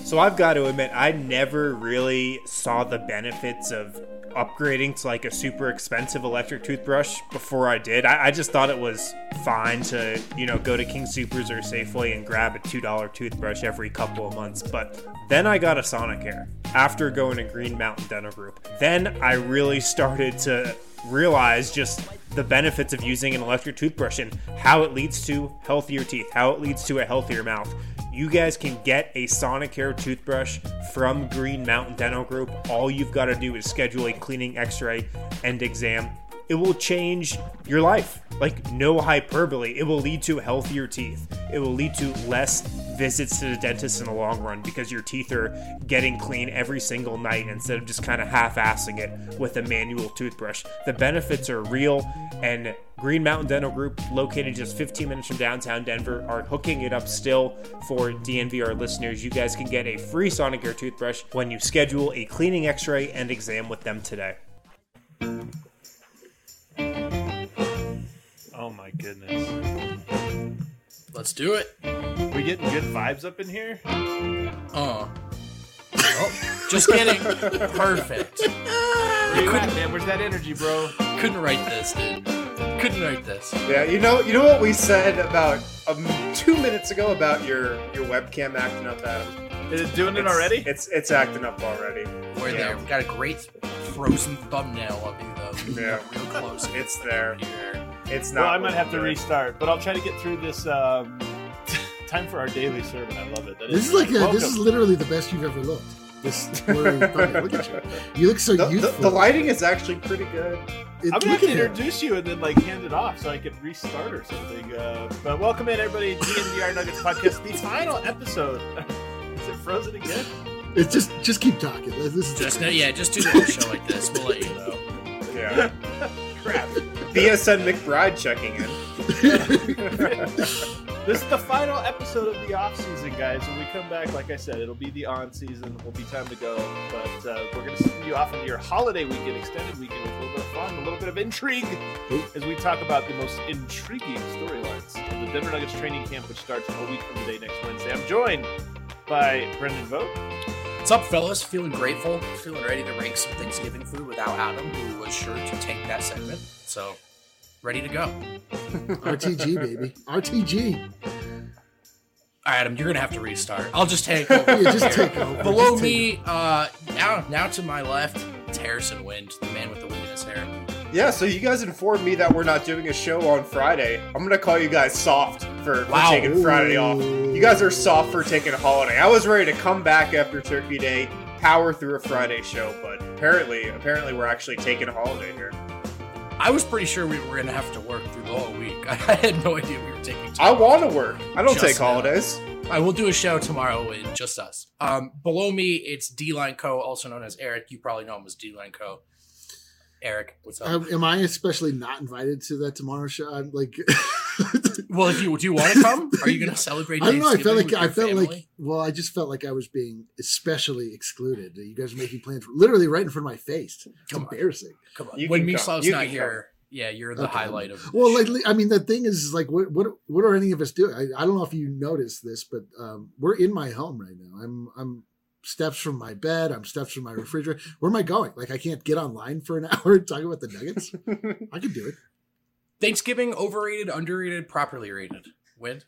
So I've got to admit, I never really saw the benefits of upgrading to like a super expensive electric toothbrush before I did. I just thought it was fine to, go to King Soopers or Safeway and grab a $2 toothbrush every couple of months. But then I got a Sonicare after going to Green Mountain Dental Group. Then I really started to realize just the benefits of using an electric toothbrush and how it leads to healthier teeth, how it leads to a healthier mouth. You guys can get a Sonicare toothbrush from Green Mountain Dental Group. All you've got to do is schedule a cleaning, x-ray, and exam. It will change your life. Like, no hyperbole. It will lead to healthier teeth. It will lead to less visits to the dentist in the long run because your teeth are getting clean every single night instead of just kind of half-assing it with a manual toothbrush. The benefits are real, and Green Mountain Dental Group, located just 15 minutes from downtown Denver, are hooking it up still for DNVR listeners. You guys can get a free Sonicare toothbrush when you schedule a cleaning, x-ray, and exam with them today. Oh my goodness. Let's do it. We getting good vibes up in here? Oh, just kidding. Perfect. Where you at, man? Where's that energy, bro? Couldn't write this, dude. Couldn't write this. Yeah, you know what we said about 2 minutes ago about your webcam acting up, Adam? Is it doing it already? It's acting up already. We're there. We got a great frozen thumbnail of you, though. Yeah. Real close. It's there. Here. It's not. Well, I might have to restart, but I'll try to get through this. Time for our daily sermon. I love it. This is literally the best you've ever looked. This blurry thumbnail. Look at you. You look so youthful. The lighting is actually pretty good. I'm gonna have to introduce you and then hand it off so I can restart or something. But welcome in, everybody. DNVR Nuggets podcast, the final episode. Is it frozen again? It's just keep talking. This is just do a little show like this. We'll let you know. Yeah. Crap. BSN McBride checking in. This is the final episode of the off season, guys. When we come back, like I said, it'll be the on season. It'll be time to go. But we're going to send you off into your holiday weekend, extended weekend, with a little bit of fun, a little bit of intrigue, as we talk about the most intriguing storylines of the Denver Nuggets training camp, which starts a week from today, next Wednesday. I'm joined by Brendan Vogt. What's up, fellas? Feeling grateful, feeling ready to rank some Thanksgiving food without Adam, who was sure to take that segment. So, ready to go. RTG, baby. RTG. All right, Adam, you're going to have to restart. I'll just take over. Yeah, just take over. Below me, now to my left, it's Harrison Wind, the man with the wind in his hair. Yeah, so you guys informed me that we're not doing a show on Friday. I'm going to call you guys soft for taking Friday off. You guys are soft for taking a holiday. I was ready to come back after Turkey Day, power through a Friday show, but apparently we're actually taking a holiday here. I was pretty sure we were going to have to work through the whole week. I had no idea we were taking time. I want to work. I don't take holidays. I will do a show tomorrow with just us. Below me, it's D-Line Co., also known as Eric. You probably know him as D-Line Co. Eric, what's up? Am I especially not invited to that tomorrow show? I'm like, well, do you want to come? Are you going to celebrate? I don't know. I just felt like I was being especially excluded. You guys are making plans literally right in front of my face. It's embarrassing. Come on. When Mislav's not here, yeah, you're the highlight of. Well, the thing is, like, what are any of us doing? I don't know if you noticed this, but we're in my home right now. I'm steps from my bed. I'm steps from my refrigerator. Where am I going? Like, I can't get online for an hour and talk about the Nuggets. I could do it. Thanksgiving, overrated, underrated, properly rated? Wind?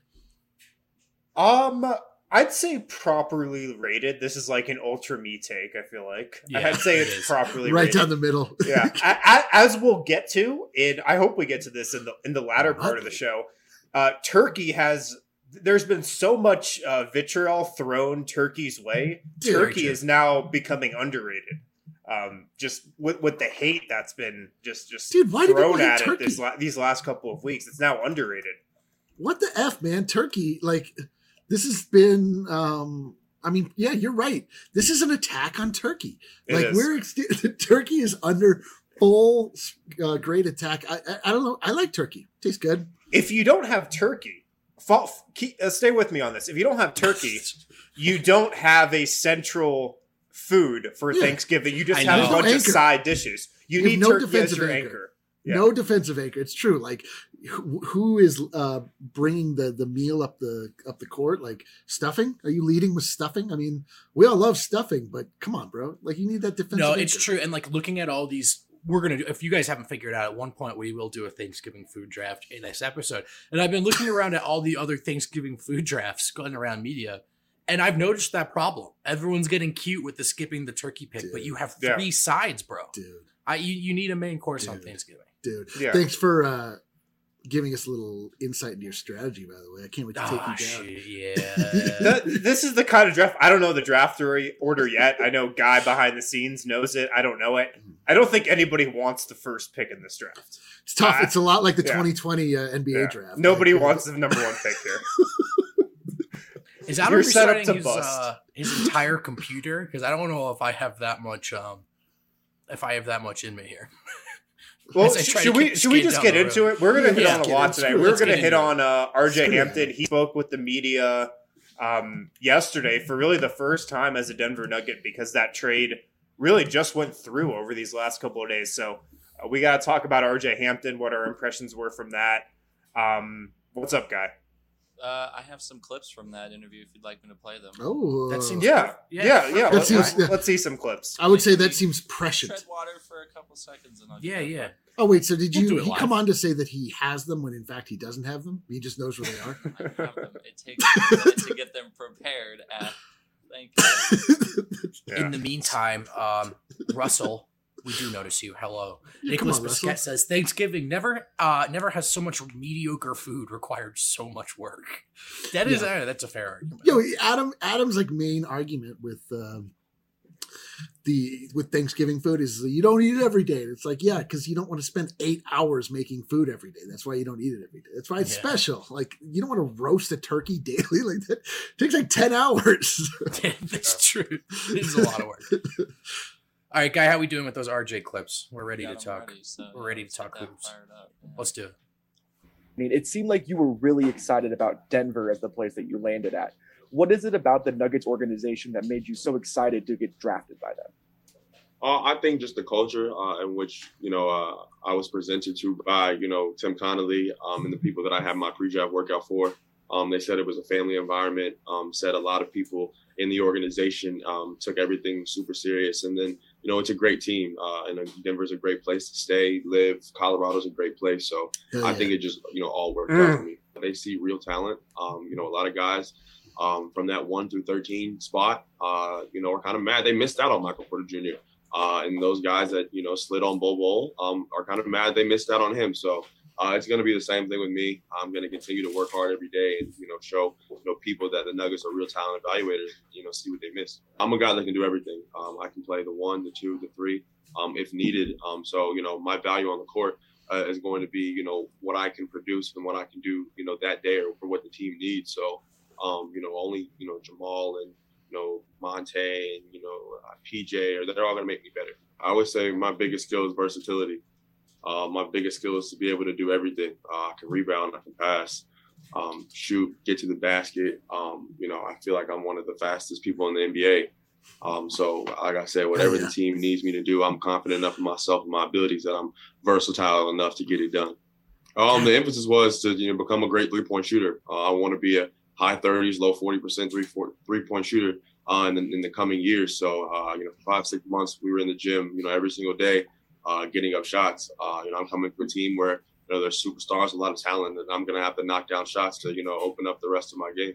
I'd say properly rated. This is like an ultra me take, I feel like. Yeah, I'd say it's properly right rated. Down the middle. Yeah. As we'll get to, and I hope we get to this in the latter part of the show, there's been so much vitriol thrown Turkey's way. Turkey is now becoming underrated. Just with the hate that's been just thrown at it these last couple of weeks. It's now underrated. What the F, man? Turkey, like, this has been, yeah, you're right. This is an attack on Turkey. Turkey is under full great attack. I don't know. I like turkey. Tastes good. If you don't have turkey, stay with me on this. If you don't have turkey, you don't have a central food for Thanksgiving. You just have a bunch of side dishes. You need turkey as your anchor. No defensive anchor. It's true. Like, who is bringing the meal up the court? Like, stuffing? Are you leading with stuffing? I mean, we all love stuffing, but come on, bro. Like, you need that defensive. No, anchor. it's true. And like looking at all these, we're gonna do. If you guys haven't figured out, at one point we will do a Thanksgiving food draft in this episode. And I've been looking around at all the other Thanksgiving food drafts going around media. And I've noticed that problem. Everyone's getting cute with the skipping the turkey pick, but you have 3 sides, bro. Dude. You need a main course on Thanksgiving. Dude. Yeah. Thanks for giving us a little insight into your strategy, by the way. I can't wait to take you down. This is the kind of draft. I don't know the draft order yet. I know Guy behind the scenes knows it. I don't know it. I don't think anybody wants the first pick in this draft. It's tough. It's a lot like the 2020 NBA draft. Nobody wants the number 1 pick here. Is Adam restarting his entire computer? Because I don't know if I have that much. If I have that much in me here. Well, should we just get into it? We're going to hit on a lot today. We're going to hit on RJ Hampton. He spoke with the media yesterday for really the first time as a Denver Nugget because that trade really just went through over these last couple of days. So we got to talk about RJ Hampton, what our impressions were from that. What's up, Guy? I have some clips from that interview if you'd like me to play them. Oh, that seems yeah. Let's see some clips. I would say that seems prescient. Tread water for a couple seconds and I'll yeah. Oh wait, so did he come on to say that he has them when in fact he doesn't have them? He just knows where they are. I have them. It takes a minute to get them prepared. Thank you. In the meantime, Russell. We do notice you. Hello. Nicholas Biscuit says Thanksgiving never has so much mediocre food required so much work. That is that's a fair argument. Yo, Adam's like main argument with Thanksgiving food is you don't eat it every day. And it's like, yeah, because you don't want to spend 8 hours making food every day. That's why you don't eat it every day. That's why it's special. Like you don't want to roast a turkey daily like that. It takes like 10 hours. That's true. It's a lot of work. All right, Guy, how we doing with those RJ clips? We're ready to talk. We're ready to talk hoops. Let's do it. I mean, it seemed like you were really excited about Denver as the place that you landed at. What is it about the Nuggets organization that made you so excited to get drafted by them? I think just the culture in which, I was presented to by, Tim Connolly and the people that I had my pre-draft workout for. They said it was a family environment, said a lot of people in the organization took everything super serious. And then, it's a great team. And Denver's a great place to stay, live. Colorado's a great place. So I think it just, all worked out for me. They see real talent. A lot of guys from that 1 through 13 spot, are kind of mad. They missed out on Michael Porter Jr. And those guys that, slid on Bol are kind of mad they missed out on him. So it's going to be the same thing with me. I'm going to continue to work hard every day and, show, people that the Nuggets are real talent evaluators, see what they missed. I'm a guy that can do everything. I can play the 1, the 2, the 3, if needed. So, my value on the court is going to be, what I can produce and what I can do, that day or for what the team needs. So, only, Jamal and, Monte and, PJ, they're all going to make me better. I would say my biggest skill is versatility. My biggest skill is to be able to do everything. I can rebound, I can pass, shoot, get to the basket. I feel like I'm one of the fastest people in the NBA. So like I said, whatever the team needs me to do, I'm confident enough in myself and my abilities that I'm versatile enough to get it done. The emphasis was to become a great 3-point shooter. I want to be a high 30s, low 40% three-point shooter in the coming years. So, for 5-6 months, we were in the gym, every single day. Getting up shots. I'm coming to a team where there's superstars, a lot of talent, and I'm going to have to knock down shots to open up the rest of my game.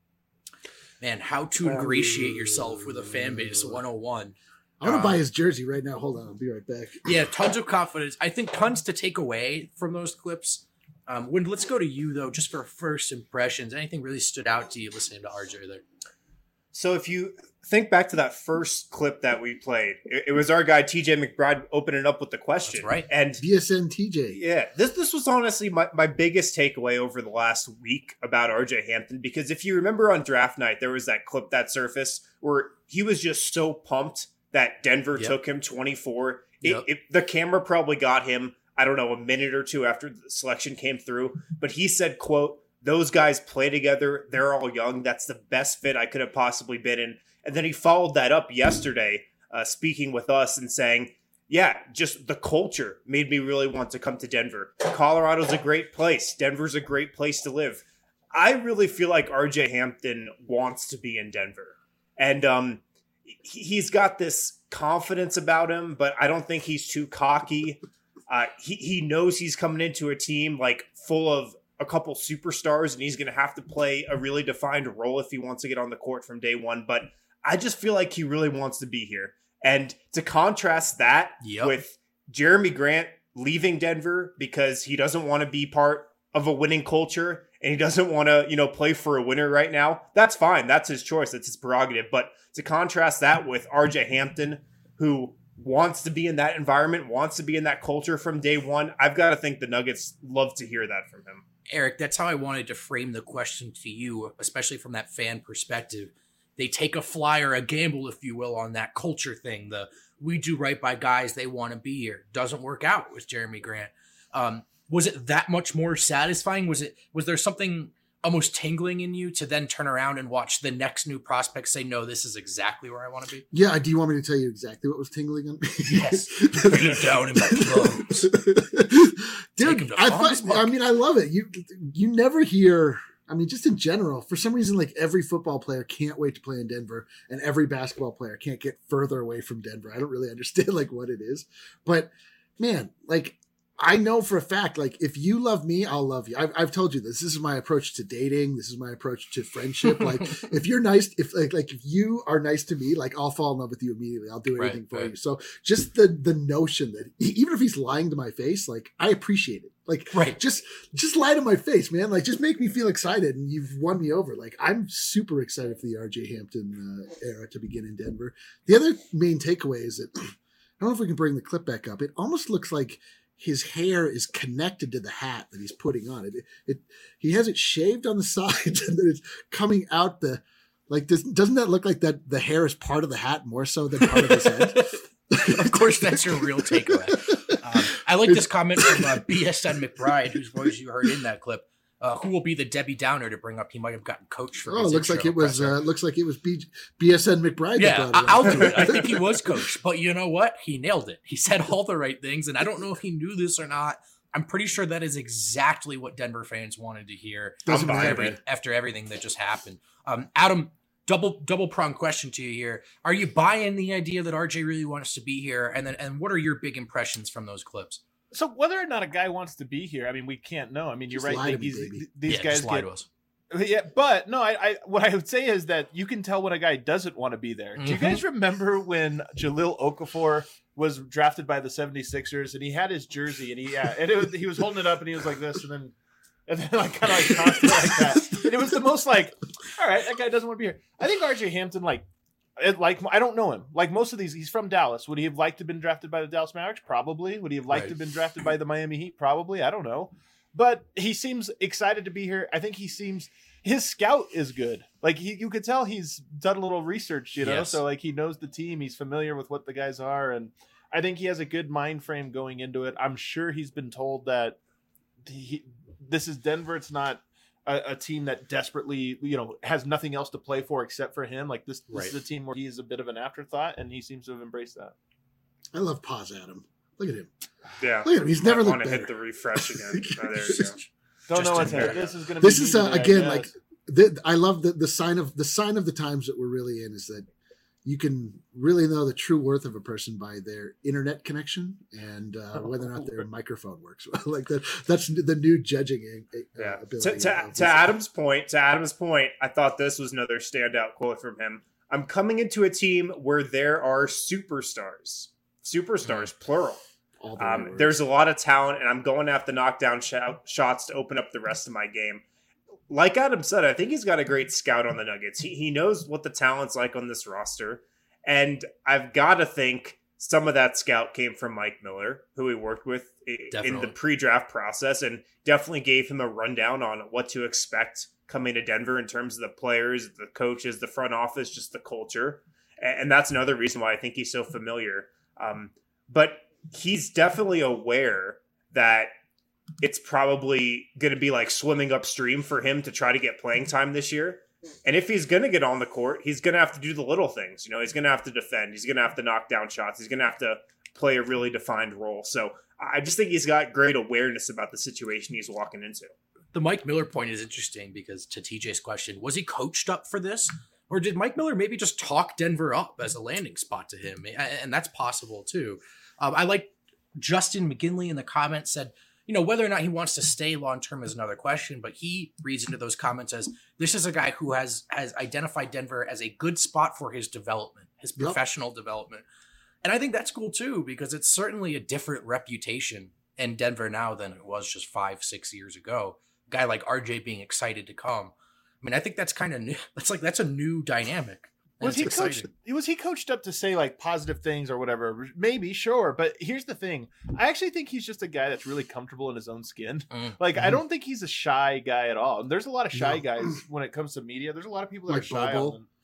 Man, how to ingratiate yourself with a fan base 101. I want to buy his jersey right now. Hold on, I'll be right back. Yeah, tons of confidence. I think tons to take away from those clips. Let's go to you though, just for first impressions. Anything really stood out to you listening to RJ there? So if you think back to that first clip that we played, it was our guy TJ McBride opening up with the question. That's right. And BSN TJ. Yeah. This was honestly my biggest takeaway over the last week about RJ Hampton, because if you remember on draft night, there was that clip that surfaced where he was just so pumped that Denver took him 24. The camera probably got him, I don't know, a minute or two after the selection came through, but he said, quote, "Those guys play together. They're all young. That's the best fit I could have possibly been in." And then he followed that up yesterday, speaking with us and saying, yeah, just the culture made me really want to come to Denver. Colorado's a great place. Denver's a great place to live. I really feel like RJ Hampton wants to be in Denver. And he's got this confidence about him, but I don't think he's too cocky. He knows he's coming into a team like full of a couple superstars, and he's going to have to play a really defined role if he wants to get on the court from day one. But I just feel like he really wants to be here. And to contrast that with Jeremy Grant leaving Denver because he doesn't want to be part of a winning culture and he doesn't want to, play for a winner right now, that's fine. That's his choice. That's his prerogative. But to contrast that with RJ Hampton, who wants to be in that environment, wants to be in that culture from day one, I've got to think the Nuggets love to hear that from him. Eric, that's how I wanted to frame the question to you, especially from that fan perspective. They take a flyer, a gamble, if you will, on that culture thing. The we do right by guys, they want to be here. Doesn't work out with Jeremy Grant. Was it that much more satisfying? Was there something almost tingling in you to then turn around and watch the next new prospect say, no, this is exactly where I want to be? Yeah. Do you want me to tell you exactly what was tingling on me? Yes. Bring it down in my clothes. Dude, I love it. You never hear, just in general, for some reason, like every football player can't wait to play in Denver and every basketball player can't get further away from Denver. I don't really understand like what it is, but man, like, I know for a fact, like, if you love me, I'll love you. I've told you this. This is my approach to dating. This is my approach to friendship. Like, if you're nice, if you are nice to me, like, I'll fall in love with you immediately. I'll do anything for you. So just the notion that even if he's lying to my face, like, I appreciate it. Like, just lie to my face, man. Like, just make me feel excited, and you've won me over. Like, I'm super excited for the RJ Hampton era to begin in Denver. The other main takeaway is that I don't know if we can bring the clip back up. It almost looks like his hair is connected to the hat that he's putting on. He has it shaved on the sides and then it's coming out doesn't that look like that the hair is part of the hat more so than part of his head? Of course, that's your real takeaway. I like this comment from BSN McBride, whose voice you heard in that clip. Who will be the Debbie Downer to bring up? He might have gotten coached for. Oh, looks like it was BSN McBride. Yeah, I'll do it. I think he was coached, but you know what? He nailed it. He said all the right things, and I don't know if he knew this or not. I'm pretty sure that is exactly what Denver fans wanted to hear after everything that just happened. Adam, double pronged question to you here: are you buying the idea that RJ really wants to be here, and what are your big impressions from those clips? So whether or not a guy wants to be here, we can't know. You're just right. These guys just lie to us. Yeah, but no, I what I would say is that you can tell when a guy doesn't want to be there. Mm-hmm. Do you guys remember when Jahlil Okafor was drafted by the 76ers and he had his jersey and he was holding it up and he was like this and then like kind of like tossed it like that. And it was the most like, all right, that guy doesn't want to be here. I think RJ Hampton I don't know him. Like most of these, he's from Dallas. Would he have liked to have been drafted by the Dallas Mavericks? Probably. Would he have liked to have been drafted by the Miami Heat? Probably. I don't know. But he seems excited to be here. I think his scout is good. Like you could tell he's done a little research, Yes. So like he knows the team. He's familiar with what the guys are. And I think he has a good mind frame going into it. I'm sure he's been told that this is Denver. It's not a team that desperately, has nothing else to play for except for him. Like this is a team where he is a bit of an afterthought, and he seems to have embraced that. I love Pause Adam. Look at him. Yeah, look at him. He's never looked better. Want to hit the refresh again. Oh, there you go. Don't know what's happening. This is going to be. This is again like I love the sign of the times that we're really in is that you can really know the true worth of a person by their internet connection and whether or not their microphone works well. Like that's the new judging ability. To Adam's point, I thought this was another standout quote from him. I'm coming into a team where there are superstars, plural. There's a lot of talent, and I'm going to have to knock down shots to open up the rest of my game. Like Adam said, I think he's got a great scout on the Nuggets. He knows what the talent's like on this roster. And I've got to think some of that scout came from Mike Miller, who he worked with in the pre-draft process, and definitely gave him a rundown on what to expect coming to Denver in terms of the players, the coaches, the front office, just the culture. And that's another reason why I think he's so familiar. But he's definitely aware that it's probably going to be like swimming upstream for him to try to get playing time this year. And if he's going to get on the court, he's going to have to do the little things. He's going to have to defend. He's going to have to knock down shots. He's going to have to play a really defined role. So I just think he's got great awareness about the situation he's walking into. The Mike Miller point is interesting because to TJ's question, was he coached up for this? Or did Mike Miller maybe just talk Denver up as a landing spot to him? And that's possible too. I like Justin McGinley in the comments said, whether or not he wants to stay long-term is another question, but he reads into those comments as this is a guy who has identified Denver as a good spot for his development, his professional development. And I think that's cool too, because it's certainly a different reputation in Denver now than it was just 5-6 years ago. A guy like RJ being excited to come. I mean, I think that's kind of new. That's a new dynamic. Was he coached up to say like positive things or whatever? Maybe, sure. But here's the thing. I actually think he's just a guy that's really comfortable in his own skin. Like, I don't think he's a shy guy at all. There's a lot of shy guys when it comes to media. There's a lot of people that are shy.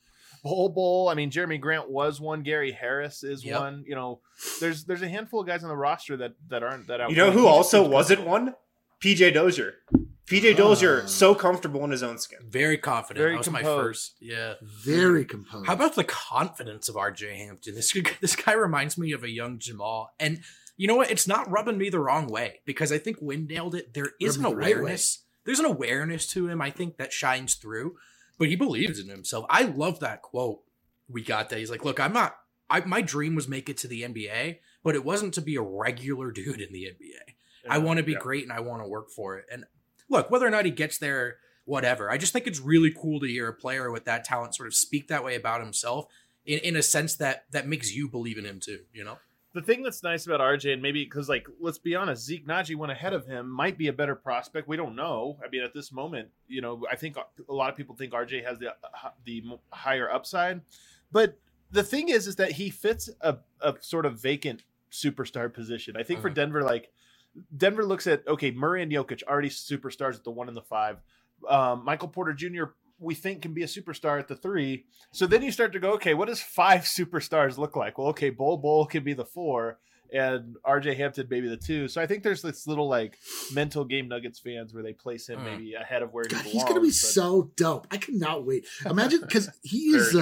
Bol. I mean, Jeremy Grant was one. Gary Harris is one. There's a handful of guys on the roster that aren't that out. You know who also wasn't one? PJ Dozier. PJ Dozier, so comfortable in his own skin. Very confident. That was composed. My first. Yeah. Very composed. How about the confidence of RJ Hampton? This guy reminds me of a young Jamal. And you know what? It's not rubbing me the wrong way because I think Wynn nailed it. There is an awareness. There's an awareness to him, I think, that shines through. But he believes in himself. I love that quote we got that. He's like, look, my dream was make it to the NBA, but it wasn't to be a regular dude in the NBA. I want to be great and I want to work for it. And look, whether or not he gets there, whatever. I just think it's really cool to hear a player with that talent sort of speak that way about himself in a sense that makes you believe in him too, The thing that's nice about RJ, and maybe because, let's be honest, Zeke Naji went ahead of him, might be a better prospect. We don't know. I mean, at this moment, I think a lot of people think RJ has the higher upside. But the thing is that he fits a sort of vacant superstar position. I think for Denver, Denver looks at, Murray and Jokic, already superstars at the 1 and the 5. Michael Porter Jr., we think can be a superstar at the 3. So then you start to go, what does 5 superstars look like? Well, Bol can be the 4 and RJ Hampton maybe the 2. So I think there's this little mental game Nuggets fans where they place him maybe ahead of where he belongs. He's going to be so dope. I cannot wait. Imagine, because he is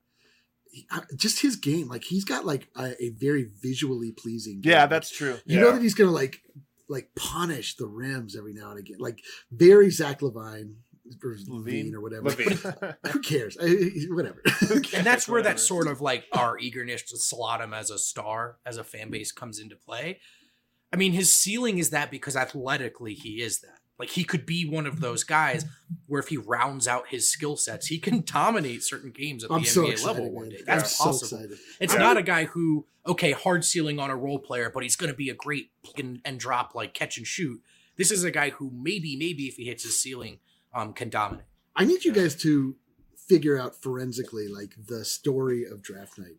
just his game. He's got a very visually pleasing game. Yeah, that's true. You know that he's going to punish the rims every now and again. Very Zach Levine. Or Levine or whatever. Who cares? Whatever. And that's where that sort of our eagerness to slot him as a star, as a fan base comes into play. I mean, his ceiling is that because athletically he is that. He could be one of those guys where if he rounds out his skill sets, he can dominate certain games at the NBA level one day. That's possible. It's not a guy who, hard ceiling on a role player, but he's going to be a great pick and drop, catch and shoot. This is a guy who maybe if he hits his ceiling, can dominate. I need you guys to figure out forensically the story of draft night.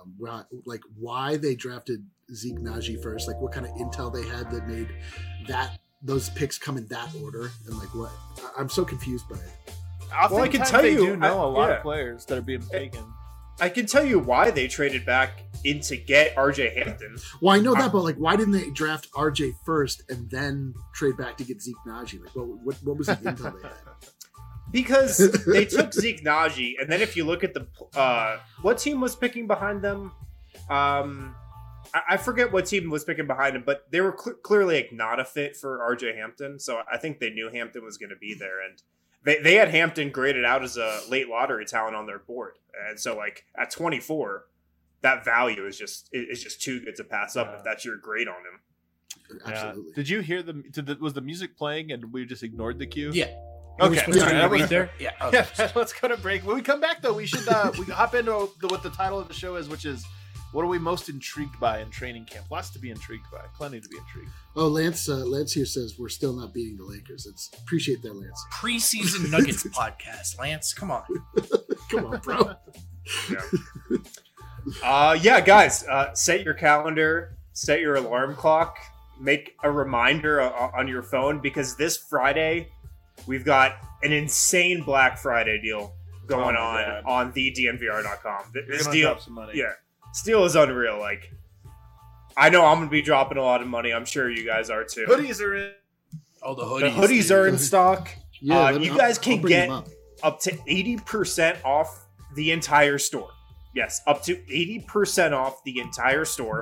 Why they drafted Zeke Naji first, what kind of intel they had that made those picks come in that order, and what I'm so confused by it. I can tell you, do know a lot of players that are being taken. I can tell you why they traded back in to get RJ Hampton. Well, I know that, but why didn't they draft RJ first and then trade back to get Zeke Naji? What was the intel they had? Because they took Zeke Naji, and then if you look at the what team was picking behind them, I forget what team was picking behind him, but they were clearly not a fit for RJ Hampton. So I think they knew Hampton was going to be there, and they had Hampton graded out as a late lottery talent on their board, and so at 24, that value is just too good to pass up if that's your grade on him. Absolutely. Did you hear was the music playing and we just ignored the cue? Yeah. Okay. There? Yeah. Okay. Let's go to break. When we come back, though, we should we hop into what the title of the show is, which is what are we most intrigued by in training camp? Lots to be intrigued by. Plenty to be intrigued. Oh, Lance here says we're still not beating the Lakers. Appreciate that, Lance. Preseason Nuggets podcast, Lance. Come on. Come on, bro. Guys, set your calendar, set your alarm clock, make a reminder on your phone, because this Friday we've got an insane Black Friday deal going on thednvr.com. This deal, drop some money. Yeah, this deal is unreal. I know I'm going to be dropping a lot of money. I'm sure you guys are too. Hoodies are in. Oh, the hoodies are in stock. Yeah, you guys can get up to 80% off the entire store. Yes, up to 80% off the entire store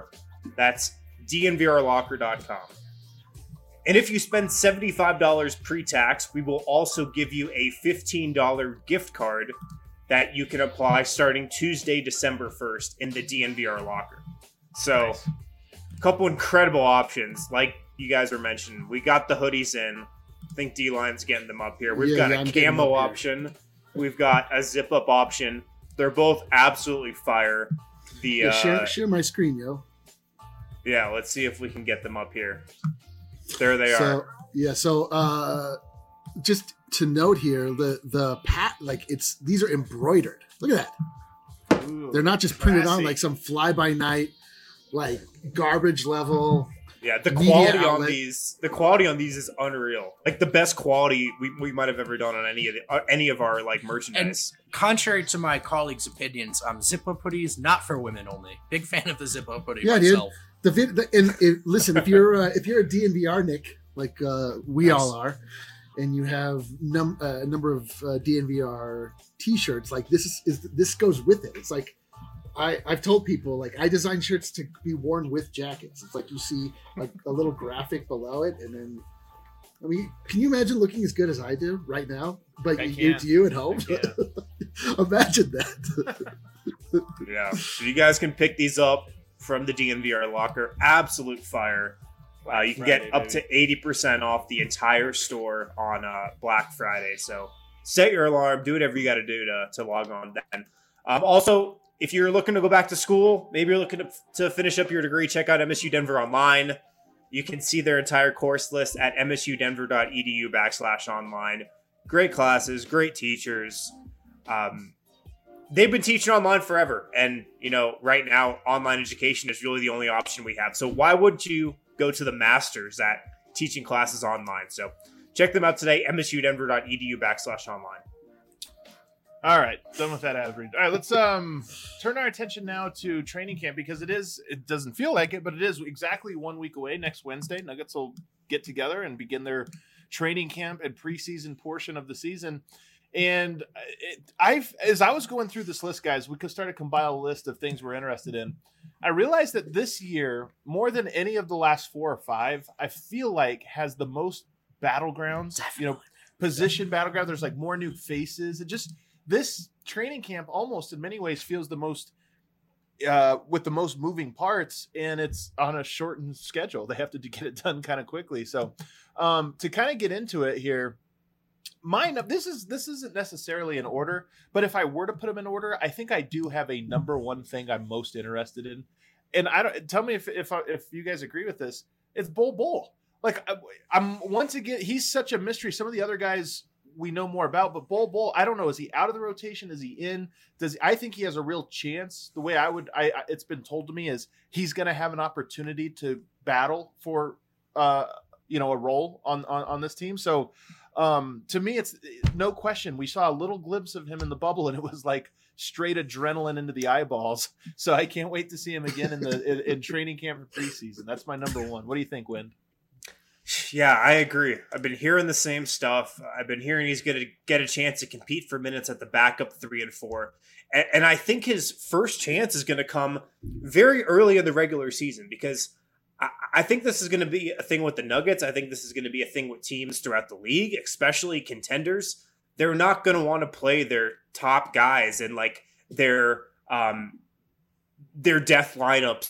That's dnvrlocker.com. And if you spend $75 pre-tax, we will also give you a $15 gift card that you can apply starting Tuesday, December 1st in the DNVR locker. So, Nice. a couple incredible options. Like you guys were mentioning, we got the hoodies in. I think D-Line's getting them up here. We've got I'm a getting them camo up here. option. We've got a zip-up option. They're both absolutely fire. The share my screen, yo. Yeah, let's see if we can get them up here. There they So are. yeah, so just to note here, the these are embroidered. Look at that. Ooh, They're not just printed on classy. like some fly by night, like garbage level. Yeah, the media quality on outlet. these is unreal. Like the best quality we might have ever done on any of our like merchandise. Contrary to my colleagues' opinions, zip-up hoodies not for women only. Big fan of the zip-up hoodie Yeah, dude. myself. Listen, if you're a DNVR Nick, like we Nice. all are, and you have a number of DNVR T-shirts, like this goes with it. It's like I've told people, like, I design shirts to be worn with jackets. It's like you see a little graphic below it, and then, I mean, can you imagine looking as good as I do right now? But I you can't. to you at home. Yeah. Imagine that. Yeah, so you guys can pick these up from the DNVR locker. Absolute fire. You can Friday, get up to 80% off the entire store on Black Friday. So set your alarm, do whatever you got to do to log on then. Also, if you're looking to go back to school, maybe you're looking to finish up your degree, check out MSU Denver online. You can see their entire course list at msudenver.edu/online. Great classes, great teachers. They've been teaching online forever. And, right now, online education is really the only option we have. So why would you go to the masters at teaching classes online? So check them out today, msudenver.edu/online. All right, done with that ad read. All right, let's turn our attention now to training camp, because it doesn't feel like it, but it is exactly 1 week away. Next Wednesday, Nuggets will get together and begin their training camp and preseason portion of the season. And as I was going through this list, guys, we could start to compile a list of things we're interested in. I realized that this year, more than any of the last 4 or 5, I feel like has the most battlegrounds, position battleground. There's like more new faces. It just, this training camp almost in many ways feels the most with the most moving parts, and it's on a shortened schedule. They have to get it done kind of quickly. So to kind of get into it here, this isn't necessarily in order, but if I were to put them in order, I think I do have a number one thing I'm most interested in. And tell me if you guys agree with this. It's Bol. Like, I'm once again, he's such a mystery. Some of the other guys we know more about, but Bol, I don't know. Is he out of the rotation? Is he in? I think he has a real chance. The way it's been told to me is he's going to have an opportunity to battle for, a role on this team. So, to me, it's no question. We saw a little glimpse of him in the bubble, and it was like straight adrenaline into the eyeballs. So I can't wait to see him again in training camp for preseason. That's my number one. What do you think, Wind? Yeah, I agree. I've been hearing the same stuff. I've been hearing he's going to get a chance to compete for minutes at the backup 3 and 4. And I think his first chance is going to come very early in the regular season, because I think this is going to be a thing with the Nuggets. I think this is going to be a thing with teams throughout the league, especially contenders. They're not going to want to play their top guys and like their death lineups,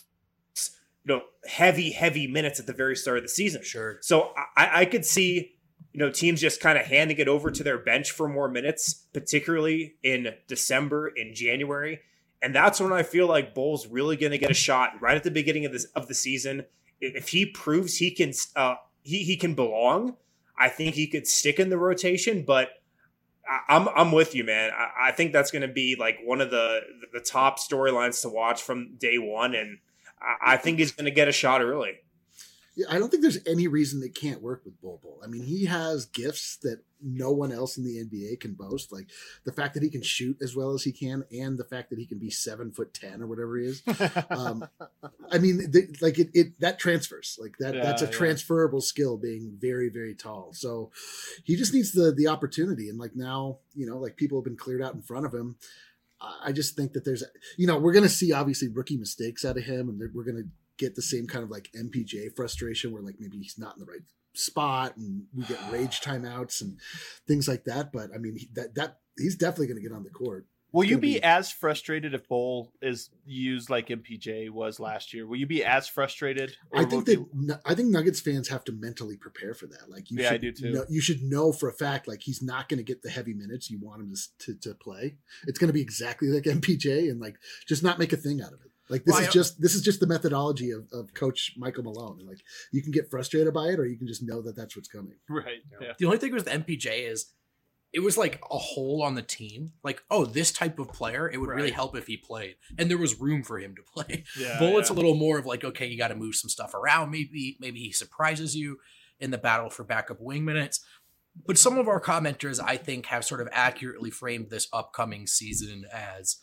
heavy minutes at the very start of the season. Sure. So I could see, teams just kind of handing it over to their bench for more minutes, particularly in December, in January. And that's when I feel like Bol's really going to get a shot right at the beginning of the season. If he proves he can he can belong, I think he could stick in the rotation. But I'm with you, man. I think that's going to be like one of the top storylines to watch from day one, and I think he's going to get a shot early. Yeah, I don't think there's any reason it can't work with Bol. I mean, he has gifts that no one else in the NBA can boast. Like the fact that he can shoot as well as he can, and the fact that he can be 7'10" or whatever he is. I mean, that transfers like that. That's a transferable skill, being very, very tall. So he just needs the opportunity. And like now, like people have been cleared out in front of him. I just think that there's, we're going to see obviously rookie mistakes out of him, and we're going to get the same kind of like MPJ frustration where like maybe he's not in the right spot and we get rage timeouts and things like that. But I mean, that he's definitely going to get on the court. Will you be as frustrated if Bol is used like MPJ was last year? Will you be as frustrated? I think Nuggets fans have to mentally prepare for that. Like, I do too. You should know for a fact, like, he's not going to get the heavy minutes you want him to play. It's going to be exactly like MPJ, and like, just not make a thing out of it. Like, this is just the methodology of Coach Michael Malone. And like, you can get frustrated by it, or you can just know that that's what's coming. Right. Yeah. The only thing with MPJ is, it was like a hole on the team. Like, oh, this type of player, it would really help if he played. And there was room for him to play. Bullet's a little more of like, okay, you got to move some stuff around. Maybe he surprises you in the battle for backup wing minutes. But some of our commenters, I think, have sort of accurately framed this upcoming season as,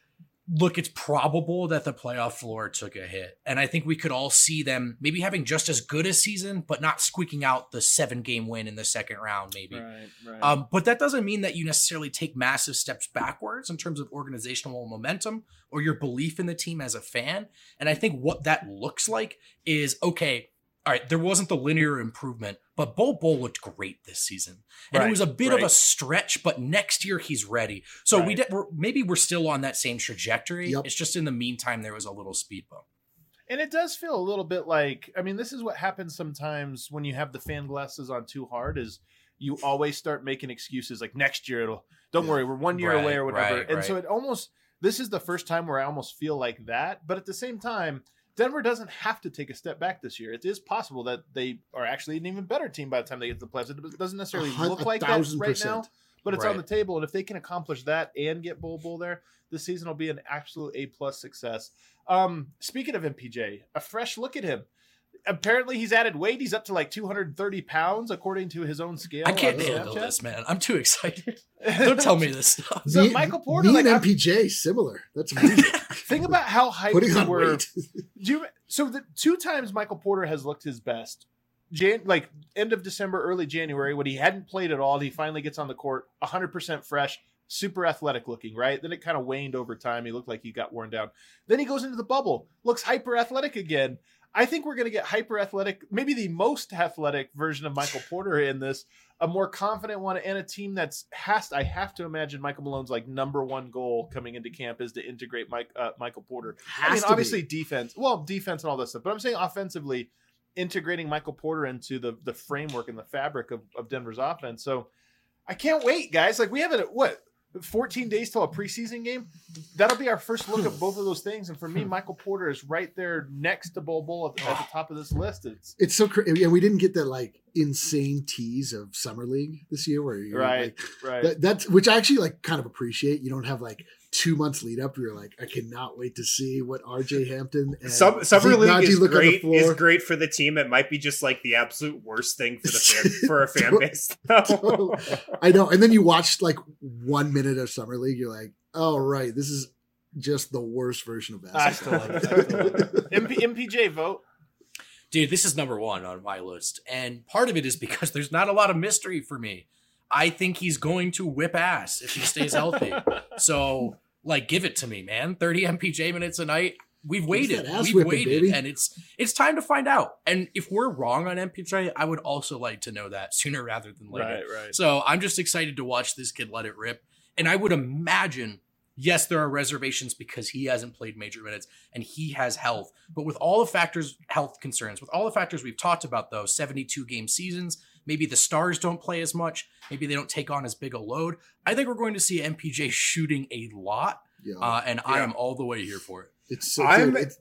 look, it's probable that the playoff floor took a hit. And I think we could all see them maybe having just as good a season, but not squeaking out the 7-game win in the second round, maybe. Right. But that doesn't mean that you necessarily take massive steps backwards in terms of organizational momentum or your belief in the team as a fan. And I think what that looks like is, okay, all right, there wasn't the linear improvement, but Bol looked great this season. And it was a bit of a stretch, but next year he's ready. So maybe we're still on that same trajectory. Yep. It's just in the meantime, there was a little speed bump. And it does feel a little bit like, I mean, this is what happens sometimes when you have the fan glasses on too hard, is you always start making excuses like next year, don't worry, we're 1 year away or whatever. So this is the first time where I almost feel like that. But at the same time, Denver doesn't have to take a step back this year. It is possible that they are actually an even better team by the time they get to the playoffs. It doesn't necessarily look like that right now, but it's on the table. And if they can accomplish that and get Bol there, this season will be an absolute A+ success. Speaking of MPJ, a fresh look at him. Apparently he's added weight. He's up to like 230 pounds according to his own scale. I can't handle this, man. I'm too excited. Don't tell me this stuff. So Michael Porter, and MPJ similar. That's amazing. Think about how hyped putting on were. Weight. So the 2 times Michael Porter has looked his best, like end of December, early January, when he hadn't played at all, he finally gets on the court, 100% fresh, super athletic looking, right? Then it kind of waned over time. He looked like he got worn down. Then he goes into the bubble, looks hyper athletic again. I think we're going to get hyper athletic, maybe the most athletic version of Michael Porter in this, a more confident one, and a team I have to imagine Michael Malone's like number one goal coming into camp is to integrate Michael Porter. Obviously defense and all this stuff, but I'm saying offensively, integrating Michael Porter into the framework and the fabric of Denver's offense. So I can't wait, guys. Like, we have 14 days till a preseason game. That'll be our first look at both of those things. And for me, Michael Porter is right there next to Bol at the top of this list. It's so crazy. Yeah, we didn't get that like insane tease of Summer League this year, where you're right. That's which I actually like kind of appreciate. You don't have like 2 months lead up. You're like, I cannot wait to see what RJ Hampton and Summer League is great for the team. It might be just like the absolute worst thing for for a fan base. I know. And then you watch like 1 minute of Summer League. You're like, oh right, this is just the worst version of basketball. I still love it. MPJ vote. Dude, this is number 1 on my list. And part of it is because there's not a lot of mystery for me. I think he's going to whip ass if he stays healthy. So, like, give it to me, man. 30 MPJ minutes a night. We've waited. Baby. And it's time to find out. And if we're wrong on MPJ, I would also like to know that sooner rather than later. Right. So I'm just excited to watch this kid let it rip. And I would imagine, yes, there are reservations because he hasn't played major minutes and he has health. But with all the health concerns, with all the factors we've talked about, though, 72-game seasons, maybe the stars don't play as much, maybe they don't take on as big a load, I think we're going to see MPJ shooting a lot. I am all the way here for it. It's so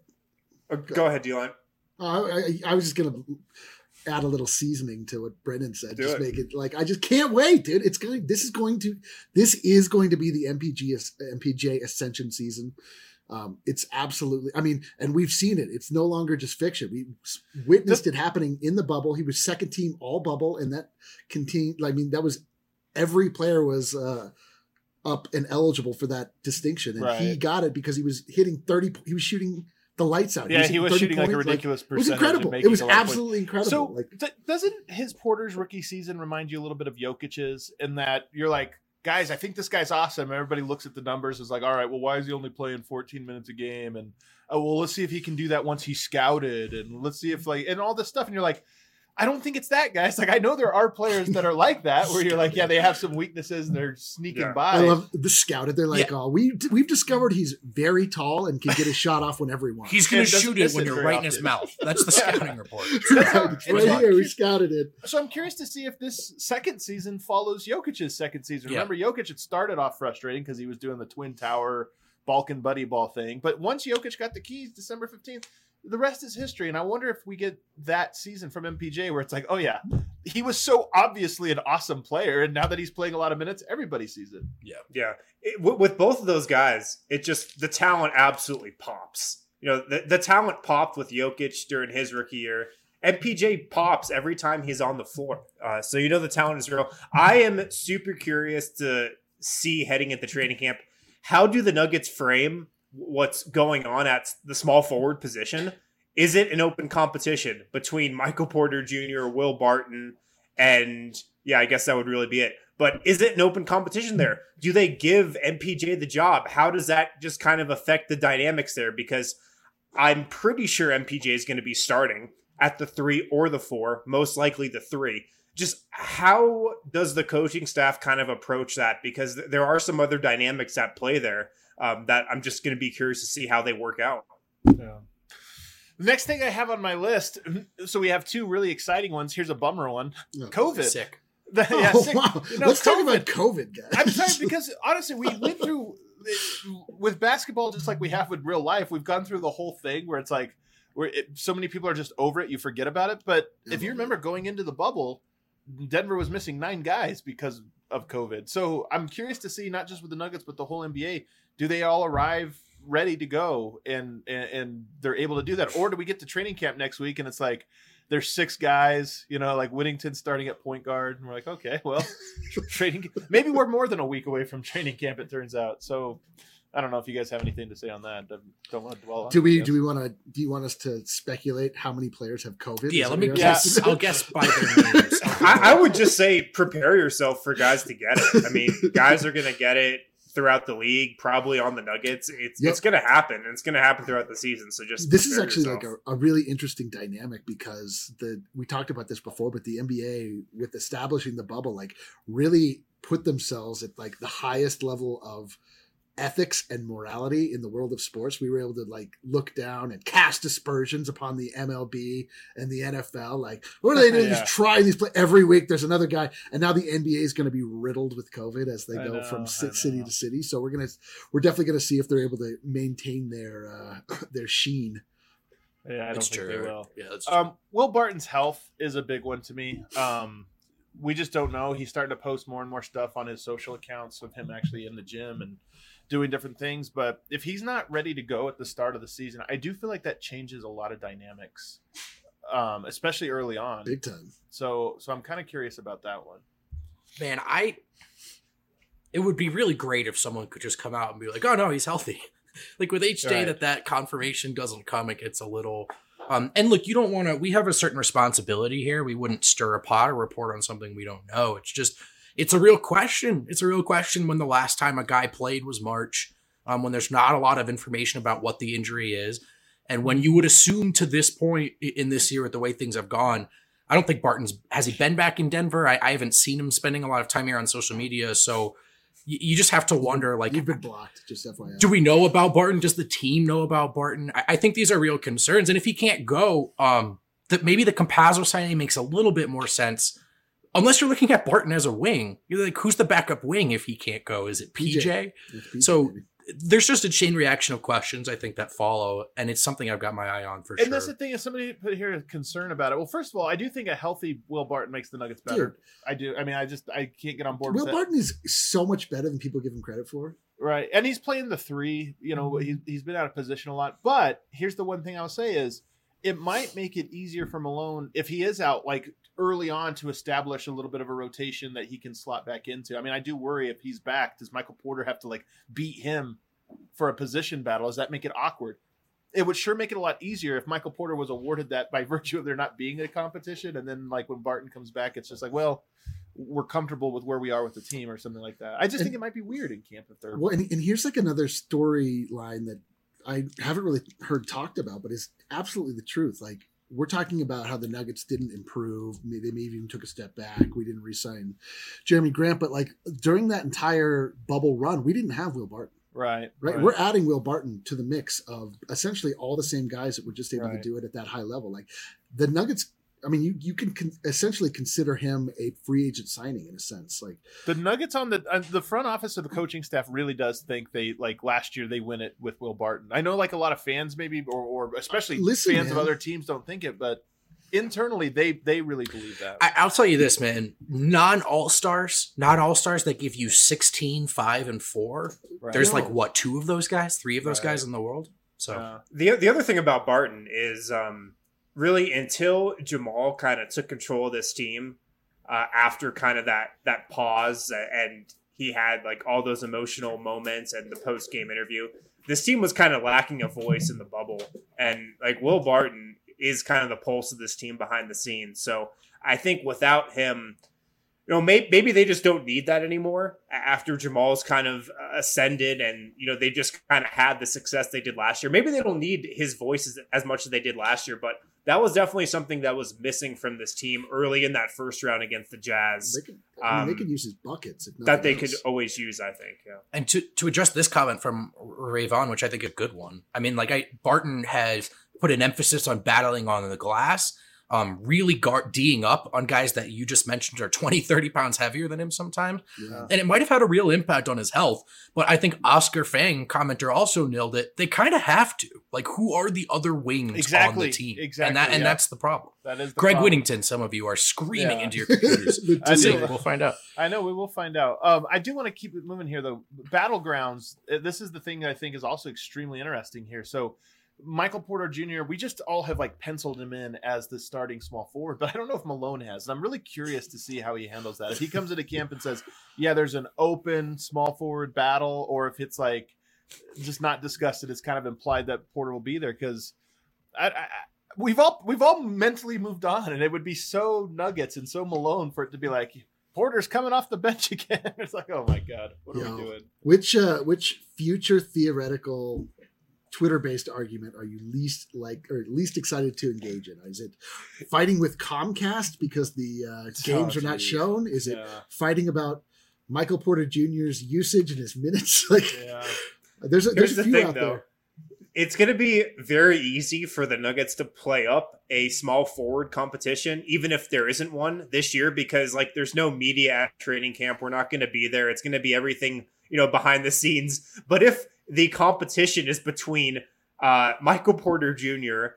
Go ahead, D-Line. I was just going to add a little seasoning to what Brendan said. Make it like, I just can't wait, dude. This is going to be the MPJ ascension season. It's absolutely, and we've seen it. It's no longer just fiction. We witnessed it happening in the bubble. He was second team all bubble, and that continued. That was every player was up and eligible for that distinction, and he got it because he was hitting 30. He was shooting the lights out. Yeah, he was shooting like a ridiculous percentage. It was incredible. It was absolutely incredible. So doesn't his Porter's rookie season remind you a little bit of Jokic's in that you're like, guys, I think this guy's awesome. Everybody looks at the numbers, is like, all right, well, why is he only playing 14 minutes a game? And well, let's see if he can do that once he's scouted, and let's see if and all this stuff. And you're like, I don't think it's that, guys. Like, I know there are players that are like that, where you're like, yeah, they have some weaknesses and they're sneaking by. I love the scouted. They're like, oh, we've discovered he's very tall and can get his shot off whenever he wants. He's going to shoot it when you're right in his mouth. That's the scouting report. Right here, we scouted it. So I'm curious to see if this second season follows Jokic's second season. Remember, Jokic had started off frustrating because he was doing the Twin Tower Balkan buddy ball thing. But once Jokic got the keys December 15th, the rest is history. And I wonder if we get that season from MPJ where it's like, oh yeah, he was so obviously an awesome player, and now that he's playing a lot of minutes, everybody sees it. Yeah. With both of those guys, it just, the talent absolutely pops. You know, the talent popped with Jokic during his rookie year. MPJ pops every time he's on the floor. So you know the talent is real. I am super curious to see heading into training camp, how do the Nuggets frame what's going on at the small forward position? Is it an open competition between Michael Porter Jr., Will Barton, and I guess that would really be it. But is it an open competition there? Do they give MPJ the job? How does that just kind of affect the dynamics there? Because I'm pretty sure MPJ is going to be starting at the 3 or the 4, most likely the 3. Just how does the coaching staff kind of approach that? Because there are some other dynamics at play there that I'm just going to be curious to see how they work out. Yeah. The next thing I have on my list, so we have 2 really exciting ones. Here's a bummer one. COVID. Sick. Sick. Wow. Let's talk about COVID, guys. I'm sorry, because honestly, we went through, with basketball, just like we have with real life, we've gone through the whole thing where it's like, so many people are just over it, you forget about it. But if you remember going into the bubble, Denver was missing 9 guys because of COVID. So I'm curious to see, not just with the Nuggets, but the whole NBA, do they all arrive ready to go and they're able to do that? Or do we get to training camp next week and it's like, there's 6 guys, like Whittington starting at point guard. And we're like, okay, well, maybe we're more than a week away from training camp, it turns out. So I don't know if you guys have anything to say on that. I don't want to dwell on it. Do you want us to speculate how many players have COVID? Yeah, let me guess. I'll guess by their names. I would just say prepare yourself for guys to get it. I mean, guys are going to get it throughout the league, probably on the Nuggets. It's going to happen, and it's going to happen throughout the season. So this is actually yourself. Like a really interesting dynamic, because we talked about this before, but the NBA, with establishing the bubble, like really put themselves at like the highest level of ethics and morality in the world of sports. We were able to like look down and cast aspersions upon the MLB and the NFL. Like, what are they doing? Just trying these play every week. There's another guy, and now the NBA is going to be riddled with COVID as they go from city to city. So we're definitely going to see if they're able to maintain their sheen. Yeah, I don't think they will. Yeah, that's true. Will Barton's health is a big one to me. We just don't know. He's starting to post more and more stuff on his social accounts of him actually in the gym and doing different things. But if he's not ready to go at the start of the season, I do feel like that changes a lot of dynamics, especially early on. Big time. So I'm kind of curious about that one. Man, it would be really great if someone could just come out and be like, oh no, he's healthy. Like with each day that confirmation doesn't come, it gets a little... and look, you don't want to, we have a certain responsibility here. We wouldn't stir a pot or report on something we don't know. It's just, it's a real question. It's a real question when the last time a guy played was March, when there's not a lot of information about what the injury is. And when you would assume to this point in this year with the way things have gone, I don't think has he been back in Denver? I haven't seen him spending a lot of time here on social media. So you just have to wonder, like, you've been blocked, just FYI. Do we know about Barton? Does the team know about Barton? I think these are real concerns. And if he can't go, that maybe the Campazzo signing makes a little bit more sense. Unless you're looking at Barton as a wing. You're like, who's the backup wing if he can't go? Is it PJ? So maybe. There's just a chain reaction of questions, I think, that follow. And it's something I've got my eye on for sure. And that's the thing, is somebody put here a concern about it. Well, first of all, I do think a healthy Will Barton makes the Nuggets better. Dude. I do. I mean, I can't get on board Will with that. Barton is so much better than people give him credit for. Right. And he's playing the 3. You know, he's been out of position a lot. But here's the one thing I'll say is it might make it easier for Malone if he is out like early on to establish a little bit of a rotation that he can slot back into. I mean, I do worry if he's back, does Michael Porter have to like beat him for a position battle? Does that make it awkward? It would sure make it a lot easier if Michael Porter was awarded that by virtue of there not being a competition. And then like when Barton comes back, it's just like, well, we're comfortable with where we are with the team or something like that. I just think it might be weird in camp if they're well. And here's like another storyline that I haven't really heard talked about, but is absolutely the truth. Like, we're talking about how the Nuggets didn't improve. They maybe even took a step back. We didn't re-sign Jeremy Grant, but like during that entire bubble run, we didn't have Will Barton. Right. We're adding Will Barton to the mix of essentially all the same guys that were just able to do it at that high level. Like the Nuggets, I mean, you can essentially consider him a free agent signing in a sense. Like the Nuggets on the front office of the coaching staff really does think they, like last year, they win it with Will Barton. I know like a lot of fans maybe, or especially fans of other teams don't think it, but internally they really believe that. I'll tell you this, man, not all-stars that give you 16, 5, and 4. Right. There's like what, 2 of those guys, 3 of those guys in the world. So the other thing about Barton is really until Jamal kind of took control of this team after kind of that pause and he had like all those emotional moments and the post-game interview, this team was kind of lacking a voice in the bubble. And like Will Barton is kind of the pulse of this team behind the scenes. So I think without him, you know, maybe they just don't need that anymore after Jamal's kind of ascended and, you know, they just kind of had the success they did last year. Maybe they don't need his voice as much as they did last year, but that was definitely something that was missing from this team early in that first round against the Jazz. They could use his buckets. That they could always use, I think. Yeah. And to address this comment from Ray Vaughn, which I think is a good one. I mean, Barton has put an emphasis on battling on the glass, really D'ing up on guys that you just mentioned are 20, 30 pounds heavier than him sometimes. Yeah. And it might have had a real impact on his health. But I think Oscar Fang, commenter, also nailed it. They kind of have to. Like, who are the other wings on the team? Exactly. And that's the problem. That is the Greg problem. Whittington, some of you are screaming into your computers. We'll find out. I know, we will find out. I do want to keep it moving here, though. Battlegrounds, this is the thing that I think is also extremely interesting here. So, Michael Porter Jr., we just all have like penciled him in as the starting small forward, but I don't know if Malone has. And I'm really curious to see how he handles that. If he comes into camp and says, yeah, there's an open small forward battle, or if it's like just not discussed, it's kind of implied that Porter will be there, because we've all mentally moved on, and it would be so Nuggets and so Malone for it to be like, Porter's coming off the bench again. It's like, oh my God, what are we doing? Which future theoretical Twitter-based argument are you least excited to engage in? Is it fighting with Comcast because the games are not shown? Is it fighting about Michael Porter Jr.'s usage and his minutes? There's a few thing, out though. there. It's going to be very easy for the Nuggets to play up a small forward competition, even if there isn't one this year, because like there's no media at training camp. We're not going to be there. It's going to be everything, you know, behind the scenes. But if the competition is between Michael Porter Jr.,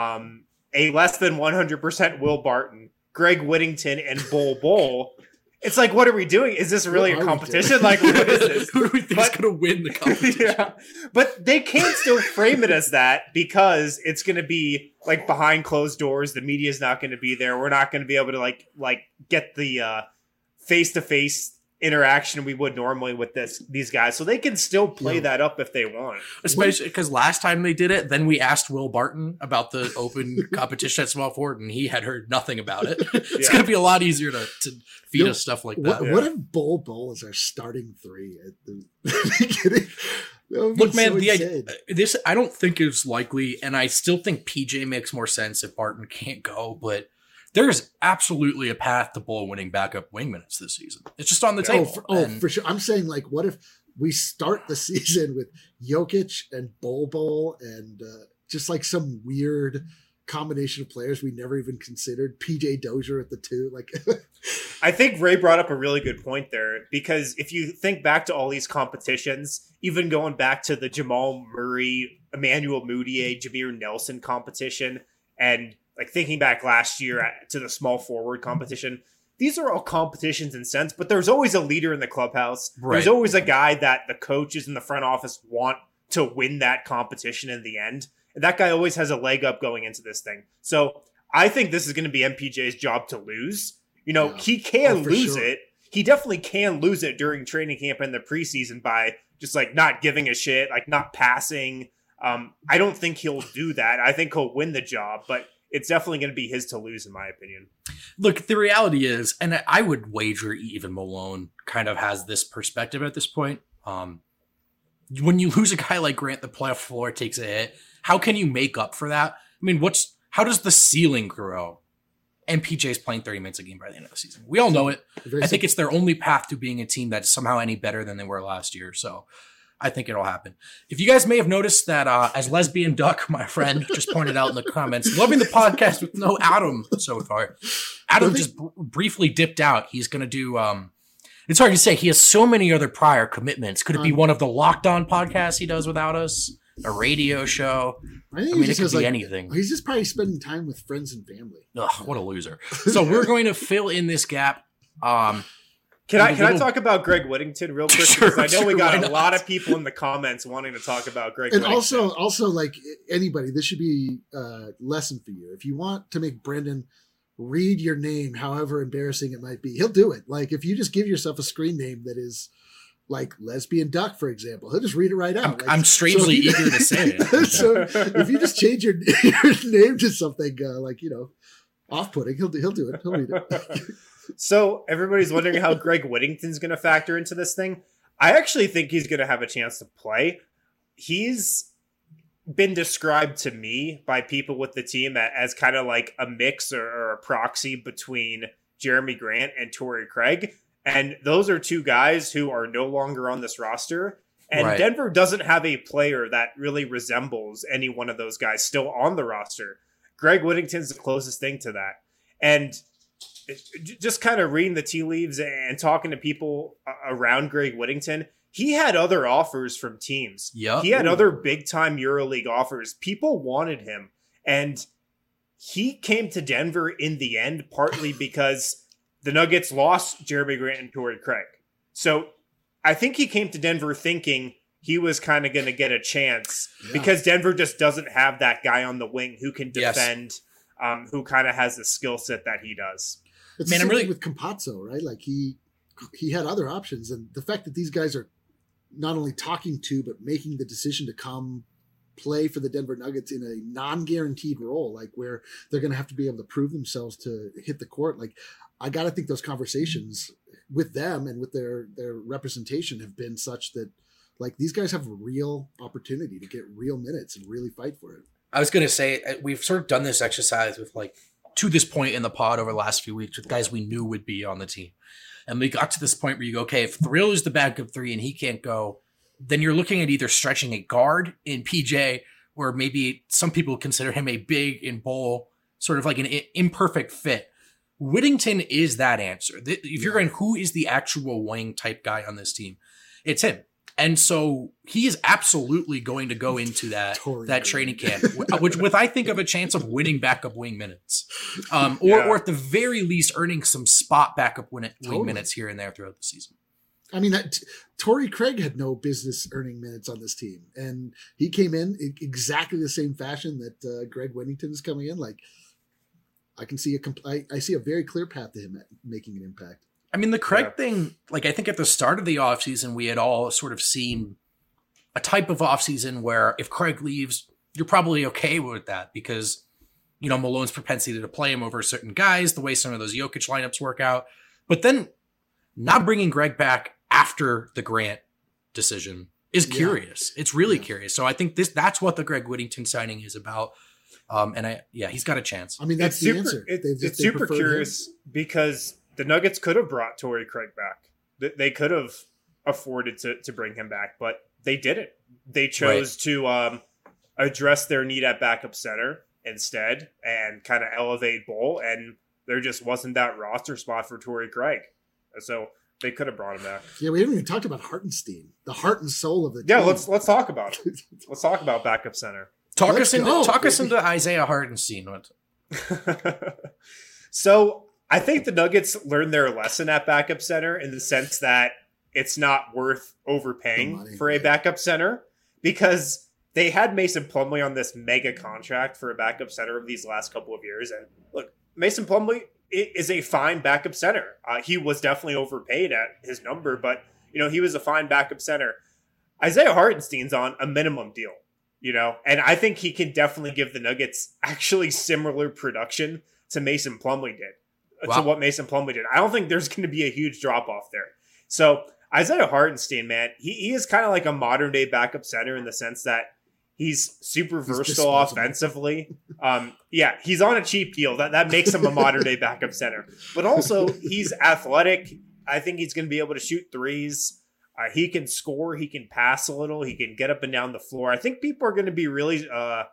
a less than 100% Will Barton, Greg Whittington, and Bol, it's like, what are we doing? Is this really a competition? Like, what is this? Who do we think is going to win the competition? Yeah. But they can't still frame it as that, because it's going to be like behind closed doors. The media is not going to be there. We're not going to be able to like get the face-to-face interaction we would normally with these guys, so they can still play that up if they want. Especially because last time they did it, then we asked Will Barton about the open competition at small forward, and he had heard nothing about it. It's going to be a lot easier to feed us stuff like that. What if Bol is our starting 3? Look, man, this I don't think is likely, and I still think PJ makes more sense if Barton can't go, but there's absolutely a path to Bol winning backup wing minutes this season. It's just on the table. For sure. I'm saying, like, what if we start the season with Jokic and Bol and just like some weird combination of players we never even considered? PJ Dozier at the 2. Like, I think Ray brought up a really good point there, because if you think back to all these competitions, even going back to the Jamal Murray, Emmanuel Mudiay, Jameer Nelson competition, and like thinking back last year to the small forward competition, these are all competitions in sense, but there's always a leader in the clubhouse. Right. There's always a guy that the coaches in the front office want to win that competition in the end. And that guy always has a leg up going into this thing. So I think this is going to be MPJ's job to lose. You know, he can lose it. He definitely can lose it during training camp and the preseason by just like not giving a shit, like not passing. I don't think he'll do that. I think he'll win the job, but it's definitely going to be his to lose, in my opinion. Look, the reality is, and I would wager even Malone kind of has this perspective at this point. When you lose a guy like Grant, the playoff floor takes a hit. How can you make up for that? I mean, how does the ceiling grow? And PJ's playing 30 minutes a game by the end of the season. We all know it. I think it's their only path to being a team that's somehow any better than they were last year. So I think it'll happen. If you guys may have noticed that as Lesbian Duck, my friend, just pointed out in the comments, loving the podcast with no Adam so far. Adam just briefly dipped out. He's going to do... it's hard to say. He has so many other prior commitments. Could it be one of the Locked On podcasts he does without us? A radio show? I mean, it could be anything. He's just probably spending time with friends and family. Ugh, what a loser. So we're going to fill in this gap. Can I talk about Greg Whittington real quick? Sure, because I know we got a lot of people in the comments wanting to talk about Greg Whittington. And also, like anybody, this should be a lesson for you. If you want to make Brendan read your name, however embarrassing it might be, he'll do it. Like if you just give yourself a screen name that is like Lesbian Duck, for example, he'll just read it right out. I'm strangely eager to say it. So if you just change your name to something off-putting, he'll do it. He'll read it. So everybody's wondering how Greg Whittington's going to factor into this thing. I actually think he's going to have a chance to play. He's been described to me by people with the team as kind of like a mix or a proxy between Jeremy Grant and Torrey Craig. And those are two guys who are no longer on this roster. And right. Denver doesn't have a player that really resembles any one of those guys still on the roster. Greg Whittington's the closest thing to that. And just kind of reading the tea leaves and talking to people around Greg Whittington, he had other offers from teams. Yep. He had other big-time EuroLeague offers. People wanted him. And he came to Denver in the end, partly because the Nuggets lost Jeremy Grant and Torrey Craig. So I think he came to Denver thinking he was kind of going to get a chance because Denver just doesn't have that guy on the wing who can defend, who kind of has the skill set that he does. It's I'm really with Campazzo, right? Like he had other options. And the fact that these guys are not only talking to, but making the decision to come play for the Denver Nuggets in a non-guaranteed role, like where they're going to have to be able to prove themselves to hit the court. Like, I got to think those conversations with them and with their representation have been such that like these guys have a real opportunity to get real minutes and really fight for it. I was going to say, we've sort of done this exercise with like to this point in the pod over the last few weeks with guys we knew would be on the team. And we got to this point where you go, okay, if Thrill is the backup three and he can't go, then you're looking at either stretching a guard in PJ, or maybe some people consider him a big in Bowl, sort of like an imperfect fit. Whittington is that answer. If you're going, who is the actual wing type guy on this team? It's him. And so he is absolutely going to go into that training camp, which with I think of a chance of winning backup wing minutes, or at the very least earning some spot backup wing minutes here and there throughout the season. I mean, Torrey Craig had no business earning minutes on this team, and he came in exactly the same fashion that Greg Whittington is coming in. Like, I can see I see a very clear path to him making an impact. I mean, the Craig thing, like I think at the start of the offseason, we had all sort of seen a type of offseason where if Craig leaves, you're probably okay with that because, you know, Malone's propensity to play him over certain guys, the way some of those Jokic lineups work out. But then not bringing Greg back after the Grant decision is curious. It's really curious. So I think that's what the Greg Whittington signing is about. He's got a chance. I mean, that's the answer. It's super curious because the Nuggets could have brought Torrey Craig back. They could have afforded to bring him back, but they didn't. They chose to address their need at backup center instead and kind of elevate Bull, and there just wasn't that roster spot for Torrey Craig. So they could have brought him back. Yeah, we haven't even talked about Hartenstein, the heart and soul of the team. Yeah, let's talk about it. Let's talk about backup center. Talk us into Isaiah Hartenstein. So I think the Nuggets learned their lesson at backup center in the sense that it's not worth overpaying for a backup center because they had Mason Plumlee on this mega contract for a backup center of these last couple of years. And look, Mason Plumlee is a fine backup center. He was definitely overpaid at his number, but you know, he was a fine backup center. Isaiah Hartenstein's on a minimum deal. you know, and I think he can definitely give the Nuggets actually similar production to Mason Plumlee did. Wow. To what Mason Plumlee did. I don't think there's going to be a huge drop off there. So Isaiah Hartenstein, man, he is kind of like a modern day backup center in the sense that he's super versatile offensively. Yeah, he's on a cheap deal. That makes him a modern day backup center. But also he's athletic. I think he's going to be able to shoot threes. He can score. He can pass a little. He can get up and down the floor. I think people are going to be really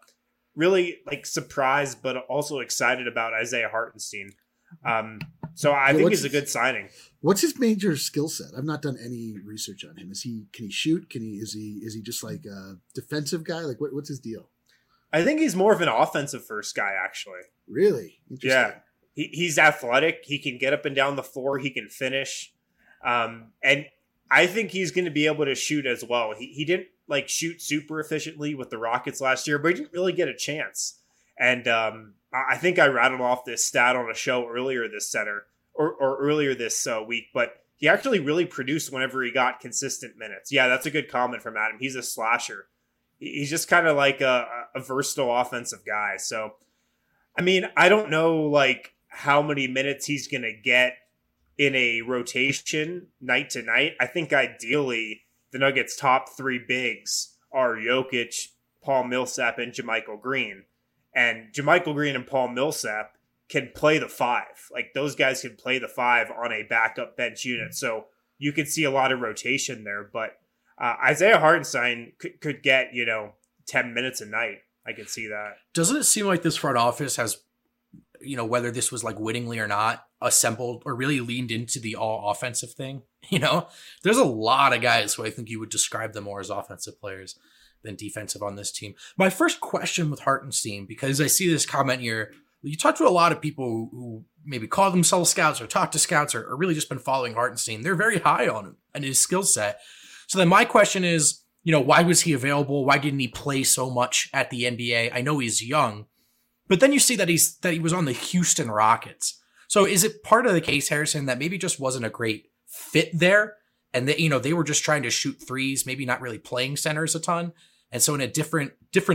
like surprised, but also excited about Isaiah Hartenstein. So I think he's a good signing. What's his major skill set? I've not done any research on him. Can he shoot? Is he just like a defensive guy? Like what's his deal? I think he's more of an offensive first guy, actually. Really? Yeah. He's athletic. He can get up and down the floor. He can finish. And I think he's going to be able to shoot as well. He didn't like shoot super efficiently with the Rockets last year, but he didn't really get a chance. And I think I rattled off this stat on a show earlier this earlier this week, but he actually really produced whenever he got consistent minutes. Yeah, that's a good comment from Adam. He's a slasher. He's just kind of like a versatile offensive guy. So, I mean, I don't know like how many minutes he's going to get in a rotation night to night. I think ideally the Nuggets' top three bigs are Jokic, Paul Millsap, and JaMychal Green. And JaMychal Green and Paul Millsap can play the five. Like those guys can play the five on a backup bench unit. So you could see a lot of rotation there. But Isaiah Hartenstein could get, 10 minutes a night. I can see that. Doesn't it seem like this front office has, whether this was like wittingly or not, assembled or really leaned into the all offensive thing? There's a lot of guys who I think you would describe them more as offensive players than defensive on this team. My first question with Hartenstein, because I see this comment here, you talk to a lot of people who maybe call themselves scouts or talk to scouts or really just been following Hartenstein. They're very high on him and his skill set. So then my question is, why was he available? Why didn't he play so much at the NBA? I know he's young, but then you see that he was on the Houston Rockets. So is it part of the case, Harrison, that maybe just wasn't a great fit there? And that, they were just trying to shoot threes, maybe not really playing centers a ton. And so in a different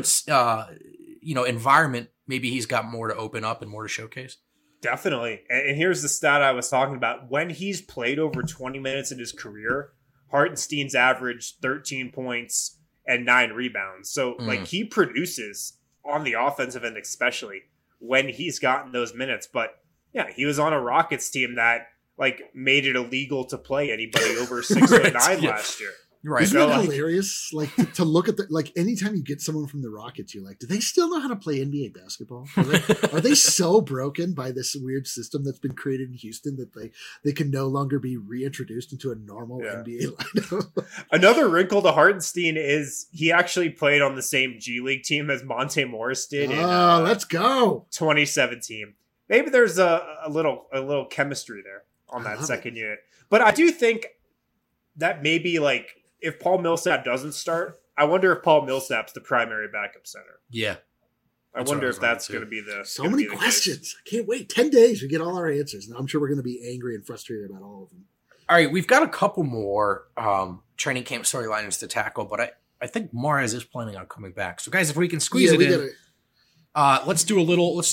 environment, maybe he's got more to open up and more to showcase. Definitely. And here's the stat I was talking about. When he's played over 20 minutes in his career, Hartenstein's averaged 13 points and 9 rebounds. So like he produces on the offensive end, especially when he's gotten those minutes. But yeah, he was on a Rockets team that like made it illegal to play anybody over 6'9" last year. Right. Isn't it hilarious? Like to look at anytime you get someone from the Rockets, you're like, do they still know how to play NBA basketball? Are they so broken by this weird system that's been created in Houston that they can no longer be reintroduced into a normal NBA lineup? Another wrinkle to Hartenstein is he actually played on the same G League team as Monte Morris did in let's go 2017. Maybe there's a little chemistry there on that second unit. But I do think that maybe like if Paul Millsap doesn't start, I wonder if Paul Millsap's the primary backup center. Yeah. I wonder if that's going to be the So many questions. I can't wait. 10 days, we get all our answers. And I'm sure we're going to be angry and frustrated about all of them. All right, we've got a couple more training camp storylines to tackle, but I think Mahrez is planning on coming back. So guys, if we can squeeze it in, let's do a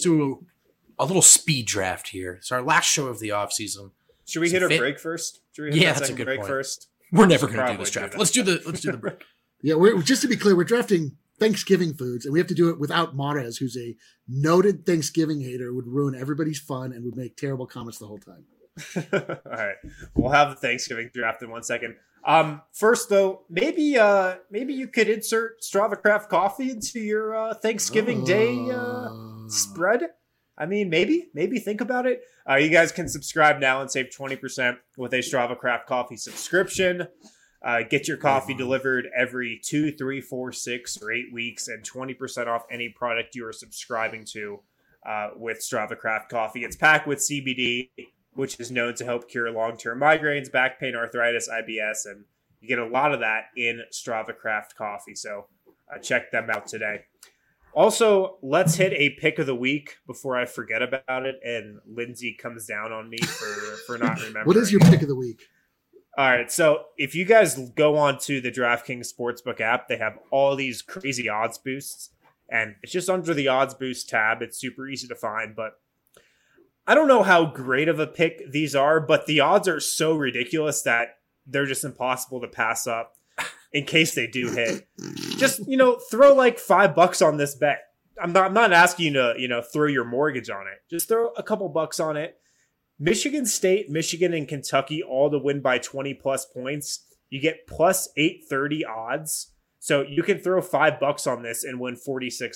little speed draft here. It's our last show of the offseason. Should we hit a break first? That's a good break first. We're never going to do this draft. Let's do the break. Yeah, just to be clear, we're drafting Thanksgiving foods, and we have to do it without Mahrez, who's a noted Thanksgiving hater, would ruin everybody's fun and would make terrible comments the whole time. All right, we'll have the Thanksgiving draft in 1 second. First though, maybe you could insert Strava Craft coffee into your Thanksgiving Day spread. I mean, maybe think about it. You guys can subscribe now and save 20% with a Strava Craft coffee subscription. Get your coffee delivered every 2, 3, 4, 6, or 8 weeks and 20% off any product you are subscribing to with Strava Craft coffee. It's packed with CBD, which is known to help cure long-term migraines, back pain, arthritis, IBS, and you get a lot of that in Strava Craft coffee. So check them out today. Also, let's hit a pick of the week before I forget about it and Lindsay comes down on me for not remembering. What is your pick of the week? All right, so if you guys go on to the DraftKings Sportsbook app, they have all these crazy odds boosts, and it's just under the odds boost tab. It's super easy to find, but I don't know how great of a pick these are, but the odds are so ridiculous that they're just impossible to pass up in case they do hit. Just, throw like $5 on this bet. I'm not asking you to, throw your mortgage on it. Just throw a couple bucks on it. Michigan State, Michigan, and Kentucky all to win by 20 plus points. You get plus 830 odds. So you can throw $5 on this and win $46.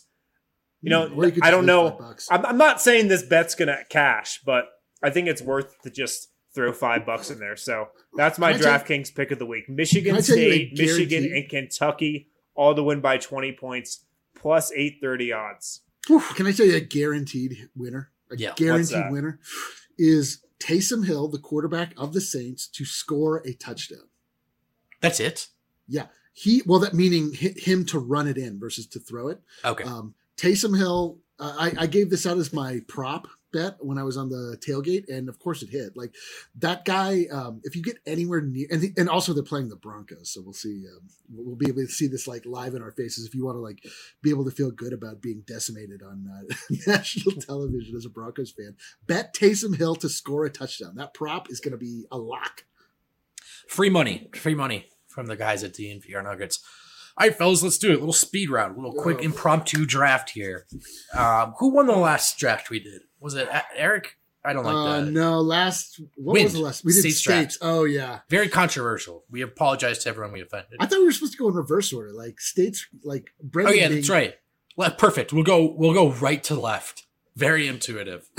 I don't know. I'm not saying this bet's going to cash, but I think it's worth to just throw $5 in there. So that's my DraftKings pick of the week. Michigan State, Michigan, and Kentucky all to win by 20 points, plus 830 odds. Can I tell you a guaranteed winner? Guaranteed winner is Taysom Hill, the quarterback of the Saints, to score a touchdown. That's it? Yeah. That meaning him to run it in versus to throw it. Okay. Taysom Hill, I gave this out as my prop bet when I was on the tailgate, and of course it hit. Like that guy, if you get anywhere near, and also they're playing the Broncos, so we'll see. We'll be able to see this like live in our faces. If you want to like be able to feel good about being decimated on national television as a Broncos fan, bet Taysom Hill to score a touchdown. That prop is going to be a lock. Free money from the guys at DNVR Nuggets. All right, fellas, let's do it. A little speed round, a little quick impromptu draft here. Who won the last draft we did? Was it Eric? I don't like that. No, was the last? We did States. Oh, yeah. Very controversial. We apologize to everyone we offended. I thought we were supposed to go in reverse order, like States, like Brendan. Oh, yeah, that's right. Perfect. We'll go right to left. Very intuitive.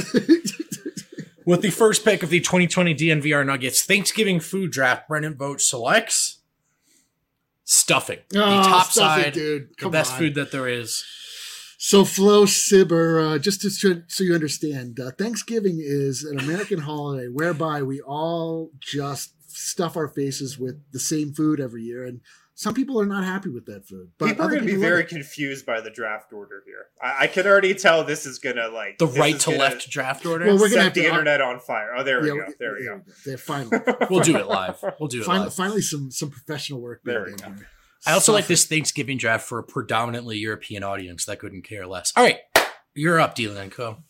With the first pick of the 2020 DNVR Nuggets Thanksgiving food draft, Brendan Vogt selects stuffing. The top side, dude. The best food that there is. So Flo Sibber, just so you understand, Thanksgiving is an American holiday whereby we all just stuff our faces with the same food every year, and some people are not happy with that food. But people are going to be very confused by the draft order here. I can already tell this is going to like the right to left draft order. Well, we're going to have the internet on fire. Oh, there we go. There we go. Finally, we'll do it live. Finally, some professional work. There we go. I also like this Thanksgiving draft for a predominantly European audience that couldn't care less. All right, you're up, Dylan Co.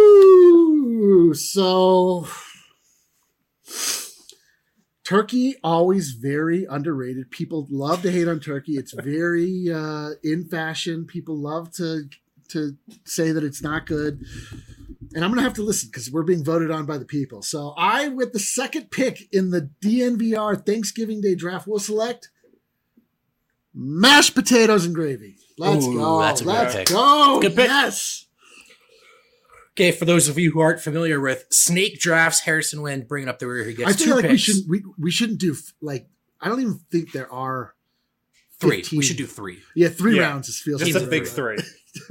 Whoo! So, turkey, always very underrated. People love to hate on turkey. It's very in fashion. People love to say that it's not good. And I'm going to have to listen because we're being voted on by the people. So with the second pick in the DNVR Thanksgiving Day draft, will select mashed potatoes and gravy. Let's go. That's a good pick. Go. Good pick. Yes. Okay, for those of you who aren't familiar with snake drafts, Harrison Wind bringing up the rear. He gets two picks. We shouldn't do like. I don't even think there are 3. We should do 3. Yeah, 3 rounds. Feels just a big 3.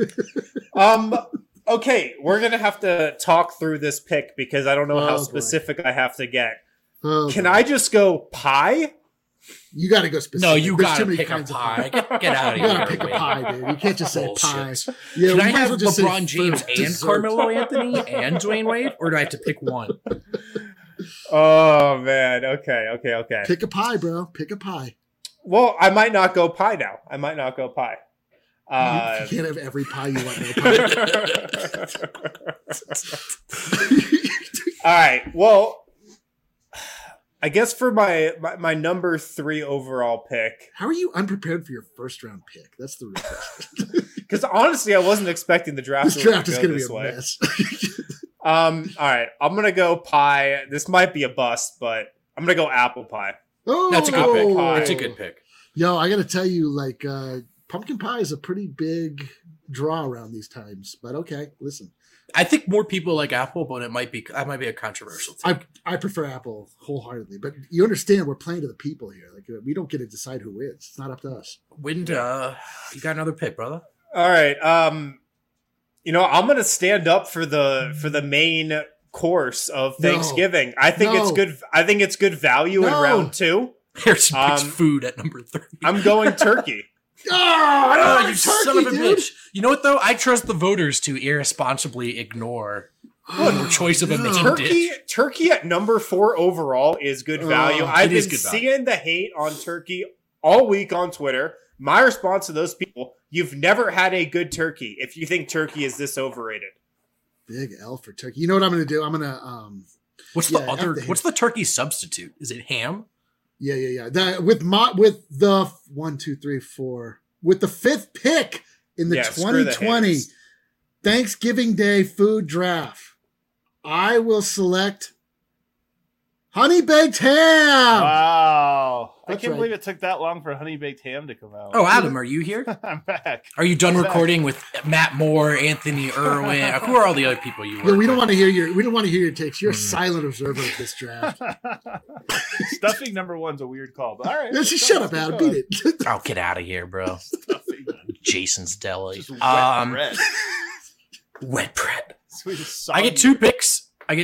Okay, we're gonna have to talk through this pick because I don't know how specific I have to get. Can I just go pie? You got to go specific. No, you got to pick a pie. Get out of here. You got to pick a pie, dude. You can't just say pie. Yeah, can I have LeBron James and Carmelo Anthony and Dwayne Wade, or do I have to pick one? Oh, man. Okay. Pick a pie, bro. Pick a pie. Well, I might not go pie now. You can't have every pie you want. No pie. All right. Well, I guess for my number 3 overall pick. How are you unprepared for your first round pick? That's the real question. Because honestly, I wasn't expecting the draft. This draft is going to be a mess. All right, I'm going to go pie. This might be a bust, but I'm going to go apple pie. Oh, that's a good pick. That's a good pick. Yo, I got to tell you, like, pumpkin pie is a pretty big draw around these times. But okay, listen. I think more people like apple, but that might be a controversial thing. I prefer apple wholeheartedly, but you understand we're playing to the people here. Like we don't get to decide who wins. It's not up to us. Wind, you got another pick, brother. All right. I'm gonna stand up for the main course of Thanksgiving. I think it's good. I think it's good value in round 2. Here's food at number 3. I'm going turkey. Oh, you turkey, son of a bitch. You know what, though? I trust the voters to irresponsibly ignore Or choice of a main dish. Turkey at number 4 overall is good value. I've been seeing the hate on turkey all week on Twitter. My response to those people, you've never had a good turkey if you think turkey is this overrated. Big L for turkey. You know what I'm going to do? I'm going to what's the turkey substitute? Is it ham? Yeah. With the 1, 2, 3, 4 with the 5th pick in the 2020 Thanksgiving Day food draft, I will select honey baked ham. Wow. That's I can't right. believe it took that long for honey baked ham to come out. Oh, Adam, are you here? I'm back. Are you done recording with Matt Moore, Anthony Irwin? Who are all the other people you work we don't with? want to hear your takes. You're a silent observer of this draft. Stuffing number 1's a weird call, but all right. Just shut up, Adam. Beat it. Oh, get out of here, bro. Stuffing. Jason's Deli. Just wet bread. Wet bread. Sweet I get 2 picks.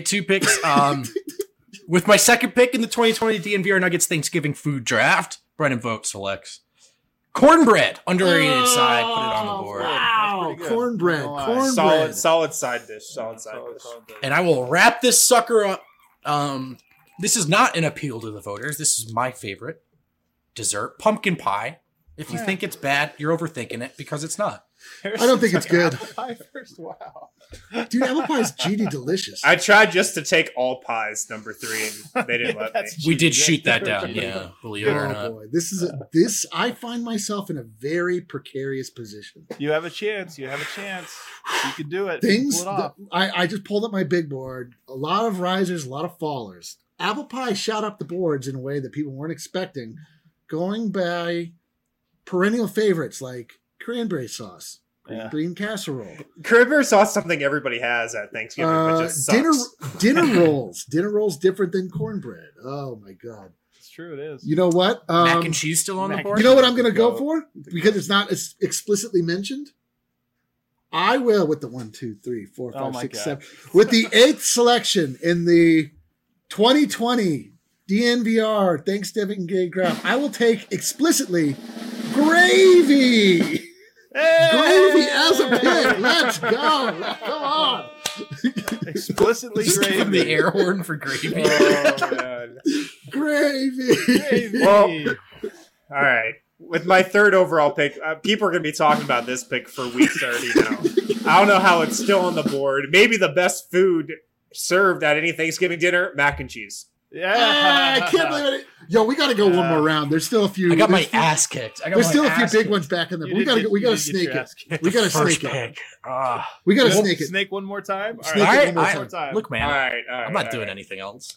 With my second pick in the 2020 DNVR Nuggets Thanksgiving food draft, Brennan Vogt selects cornbread, underrated side. Put it on the board. Wow, cornbread. Solid side dish. And I will wrap this sucker up. This is not an appeal to the voters. This is my favorite dessert, pumpkin pie. If you think it's bad, you're overthinking it because it's not. I don't think it's good. Apple pie first. Wow. Dude, apple pie is GD delicious. I tried just to take all pies number 3 and they didn't let me. We did shoot that down, yeah. Believe it or not. Boy, this I find myself in a very precarious position. You have a chance. You can do it. Things Pull it off. I just pulled up my big board. A lot of risers, a lot of fallers. Apple pie shot up the boards in a way that people weren't expecting, going by perennial favorites like cranberry sauce, green casserole. Cranberry sauce is something everybody has at Thanksgiving, but just sucks. Dinner rolls. Dinner rolls different than cornbread. Oh my god. It's true, it is. You know what? Mac and cheese still on the board? You know what I'm going to go for? Because it's not explicitly mentioned. I will with the 1, 2, 3, 4, 5, 6, 7. With the 8th selection in the 2020 DNVR Thanksgiving Day draft, I will take explicitly gravy. Hey! Gravy as a pick. Let's go. Come on. Explicitly Just give him gravy. the air horn for gravy. Oh, man. Gravy. Well, all right. With my 3rd overall pick, people are going to be talking about this pick for weeks already now. I don't know how it's still on the board. Maybe the best food served at any Thanksgiving dinner, mac and cheese. Yeah. I can't believe it. Yo, we got to go one more round. There's still a few. I got my ass kicked. There's still a few big ones back in there. We got to snake it. We got to snake it. We got to snake it. Snake one more time. All Snake right. it one more time. Look, man. All right. I'm not doing anything else.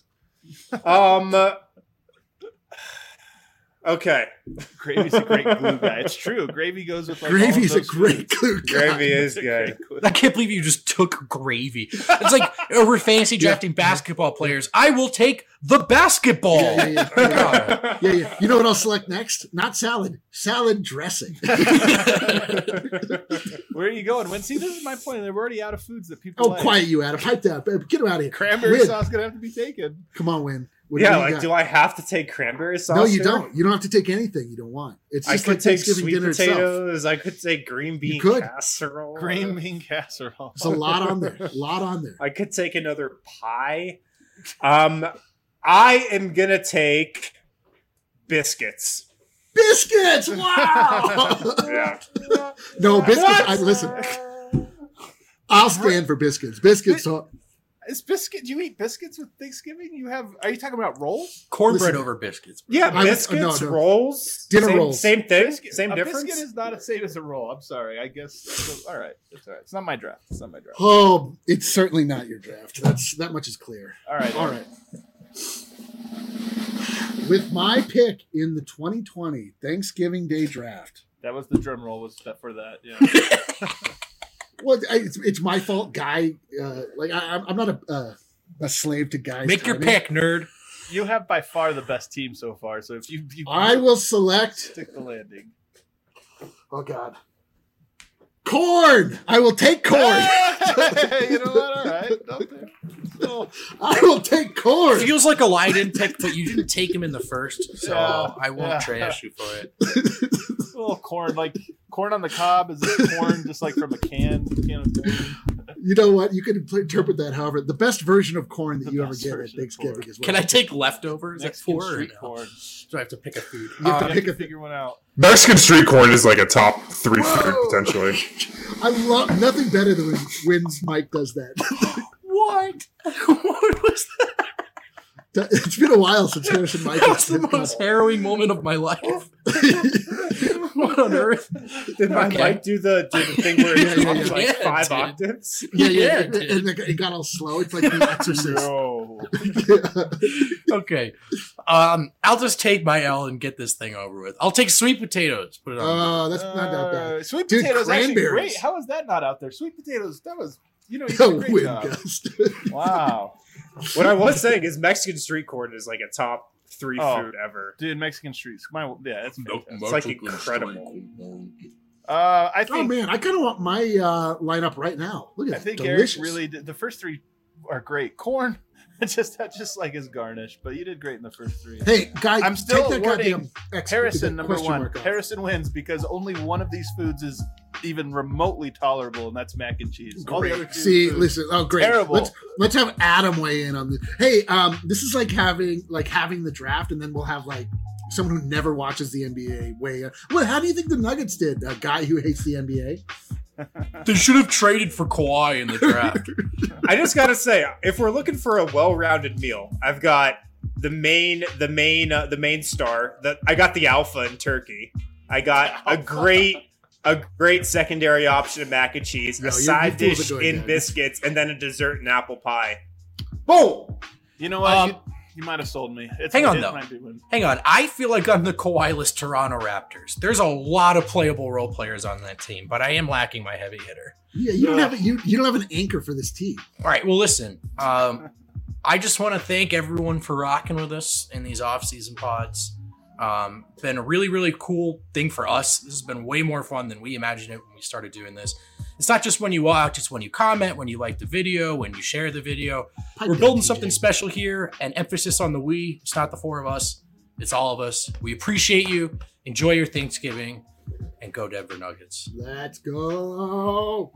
Okay. Gravy's a great glue guy. It's true. Gravy goes with like Gravy's all a of those great foods. glue guy. Gravy is good. I can't believe you just took gravy. It's like we're fantasy drafting basketball players. I will take the basketball. Yeah. You know what I'll select next? Not salad. Salad dressing. Where are you going? See, this is my point. They're already out of foods that people like. Quiet you, Adam. Pipe down. Get him out of here. Cranberry Win. sauce going to have to be taken. Come on, Win. What do I have to take cranberry sauce? No, you here? don't. You don't have to take anything you don't want. It's just I could like take Thanksgiving sweet dinner potatoes. itself. I could take green bean could. casserole. Green bean casserole. There's a lot on there. I could take another pie. I am gonna take biscuits. Biscuits! Wow! Yeah. No, biscuits. Listen, I'll stand for biscuits. Biscuits. Is biscuit? Do you eat biscuits with Thanksgiving? Are you talking about rolls? Cornbread over biscuits. Yeah, biscuits, rolls, dinner rolls. Same thing. A Difference. biscuit is not the same as a roll. I'm sorry. I guess. All right. It's all right. It's not my draft. Oh, it's certainly not your draft. That much is clear. All right. With my pick in the 2020 Thanksgiving Day draft. That was the drum roll. Was for that? Yeah. Well, it's my fault, Guy. I'm not a slave to Guy's Make your timing. pick, nerd. You have by far the best team so far. So if you I will select. Stick the landing. Oh God. Corn. I will take corn. You know what? All right. I will take corn. It feels like a Leiden pick, but you didn't take him in the first, so I won't trash you for it. A little corn, like corn on the cob. Is it corn just like from a can of corn? You know what? You can interpret that however. The best version of corn that you ever get at Thanksgiving is what Can I take leftovers at Mexican 4? street corn. Do I have to pick a food? You have to You pick have a to figure one out. Mexican street corn is like a top 3 food potentially. I love nothing better than when Mike does that. What? What was that? It's been a while since Harrison Mike. That was the most harrowing moment of my life. What on earth? Did my Okay. mic do the thing where it Yeah, dropped like yeah, 5 dude. octaves? Yeah, Yeah, and it got all slow. It's like The Exorcist. No. Okay. I'll just take my L and get this thing over with. I'll take sweet potatoes. Put it on. Oh, that's not that bad. Sweet Dude, potatoes actually cranberries. great. How is that not out there? Sweet potatoes. That was you did No a great win, job. Gust. Wow. What I was saying is Mexican street corn is like a top 3 Oh. food ever. Dude, Mexican streets. It's fantastic. It's like incredible. I Oh think man, I kind of want my lineup right now. Look at I that, think delicious. Eric really did. The first 3 are great. Corn, that just like his garnish, but you did great in the first 3. Hey, guys, I'm still take that awarding goddamn Harrison number question 1. mark off. Harrison wins because only one of these foods is even remotely tolerable, and that's mac and cheese. All the other two See, foods- listen. Oh, great. Terrible. Let's have Adam weigh in on this. Hey, this is like having the draft, and then we'll have like someone who never watches the NBA weigh in. Well, how do you think the Nuggets did? A guy who hates the NBA. They should have traded for Kawhi in the draft. I just gotta say, if we're looking for a well-rounded meal, I've got the main star. I got the alpha in turkey. I got a great secondary option of mac and cheese, No, a you side fools are dish going in down. biscuits, and then a dessert and apple pie. Boom! You know what? You might have sold me. Hang on, it though. might be one. Hang on. I feel like I'm the Kawhi-less Toronto Raptors. There's a lot of playable role players on that team, but I am lacking my heavy hitter. Yeah, you don't have you don't have an anchor for this team. All right. Well, listen. I just want to thank everyone for rocking with us in these off-season pods. Been a really, really cool thing for us. This has been way more fun than we imagined it when we started doing this. It's not just when you watch, it's when you comment, when you like the video, when you share the video. Pipe We're down, building TJ. something special here, and emphasis on the we. It's not the 4 of us. It's all of us. We appreciate you. Enjoy your Thanksgiving, and go Denver Nuggets. Let's go.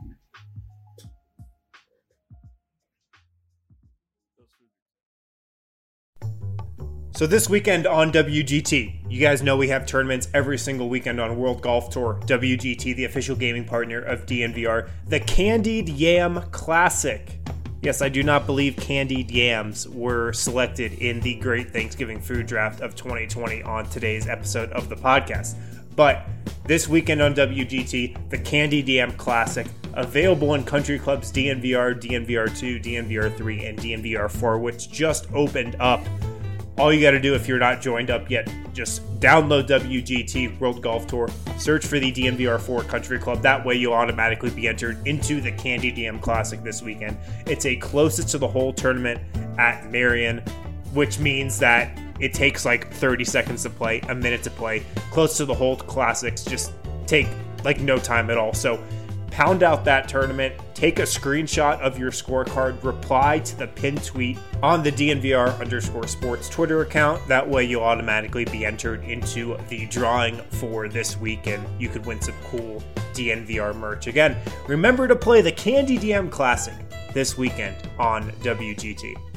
So this weekend on WGT, you guys know we have tournaments every single weekend on World Golf Tour. WGT, the official gaming partner of DNVR, the Candied Yam Classic. Yes, I do not believe candied yams were selected in the Great Thanksgiving Food Draft of 2020 on today's episode of the podcast. But this weekend on WGT, the Candied Yam Classic, available in country clubs DNVR, DNVR2, DNVR3, and DNVR4, which just opened up. All you got to do if you're not joined up yet, just download WGT World Golf Tour, search for the DNVR4 Country Club. That way you'll automatically be entered into the Candied Yam Classic this weekend. It's a closest to the hole tournament at Marion, which means that it takes like 30 seconds to play, a minute to play. Close to the hole classics just take like no time at all. So pound out that tournament, take a screenshot of your scorecard, reply to the pinned tweet on the DNVR_sports Twitter account. That way you'll automatically be entered into the drawing for this week, and you could win some cool DNVR merch. Again, remember to play the Candied Yam Classic this weekend on WGT.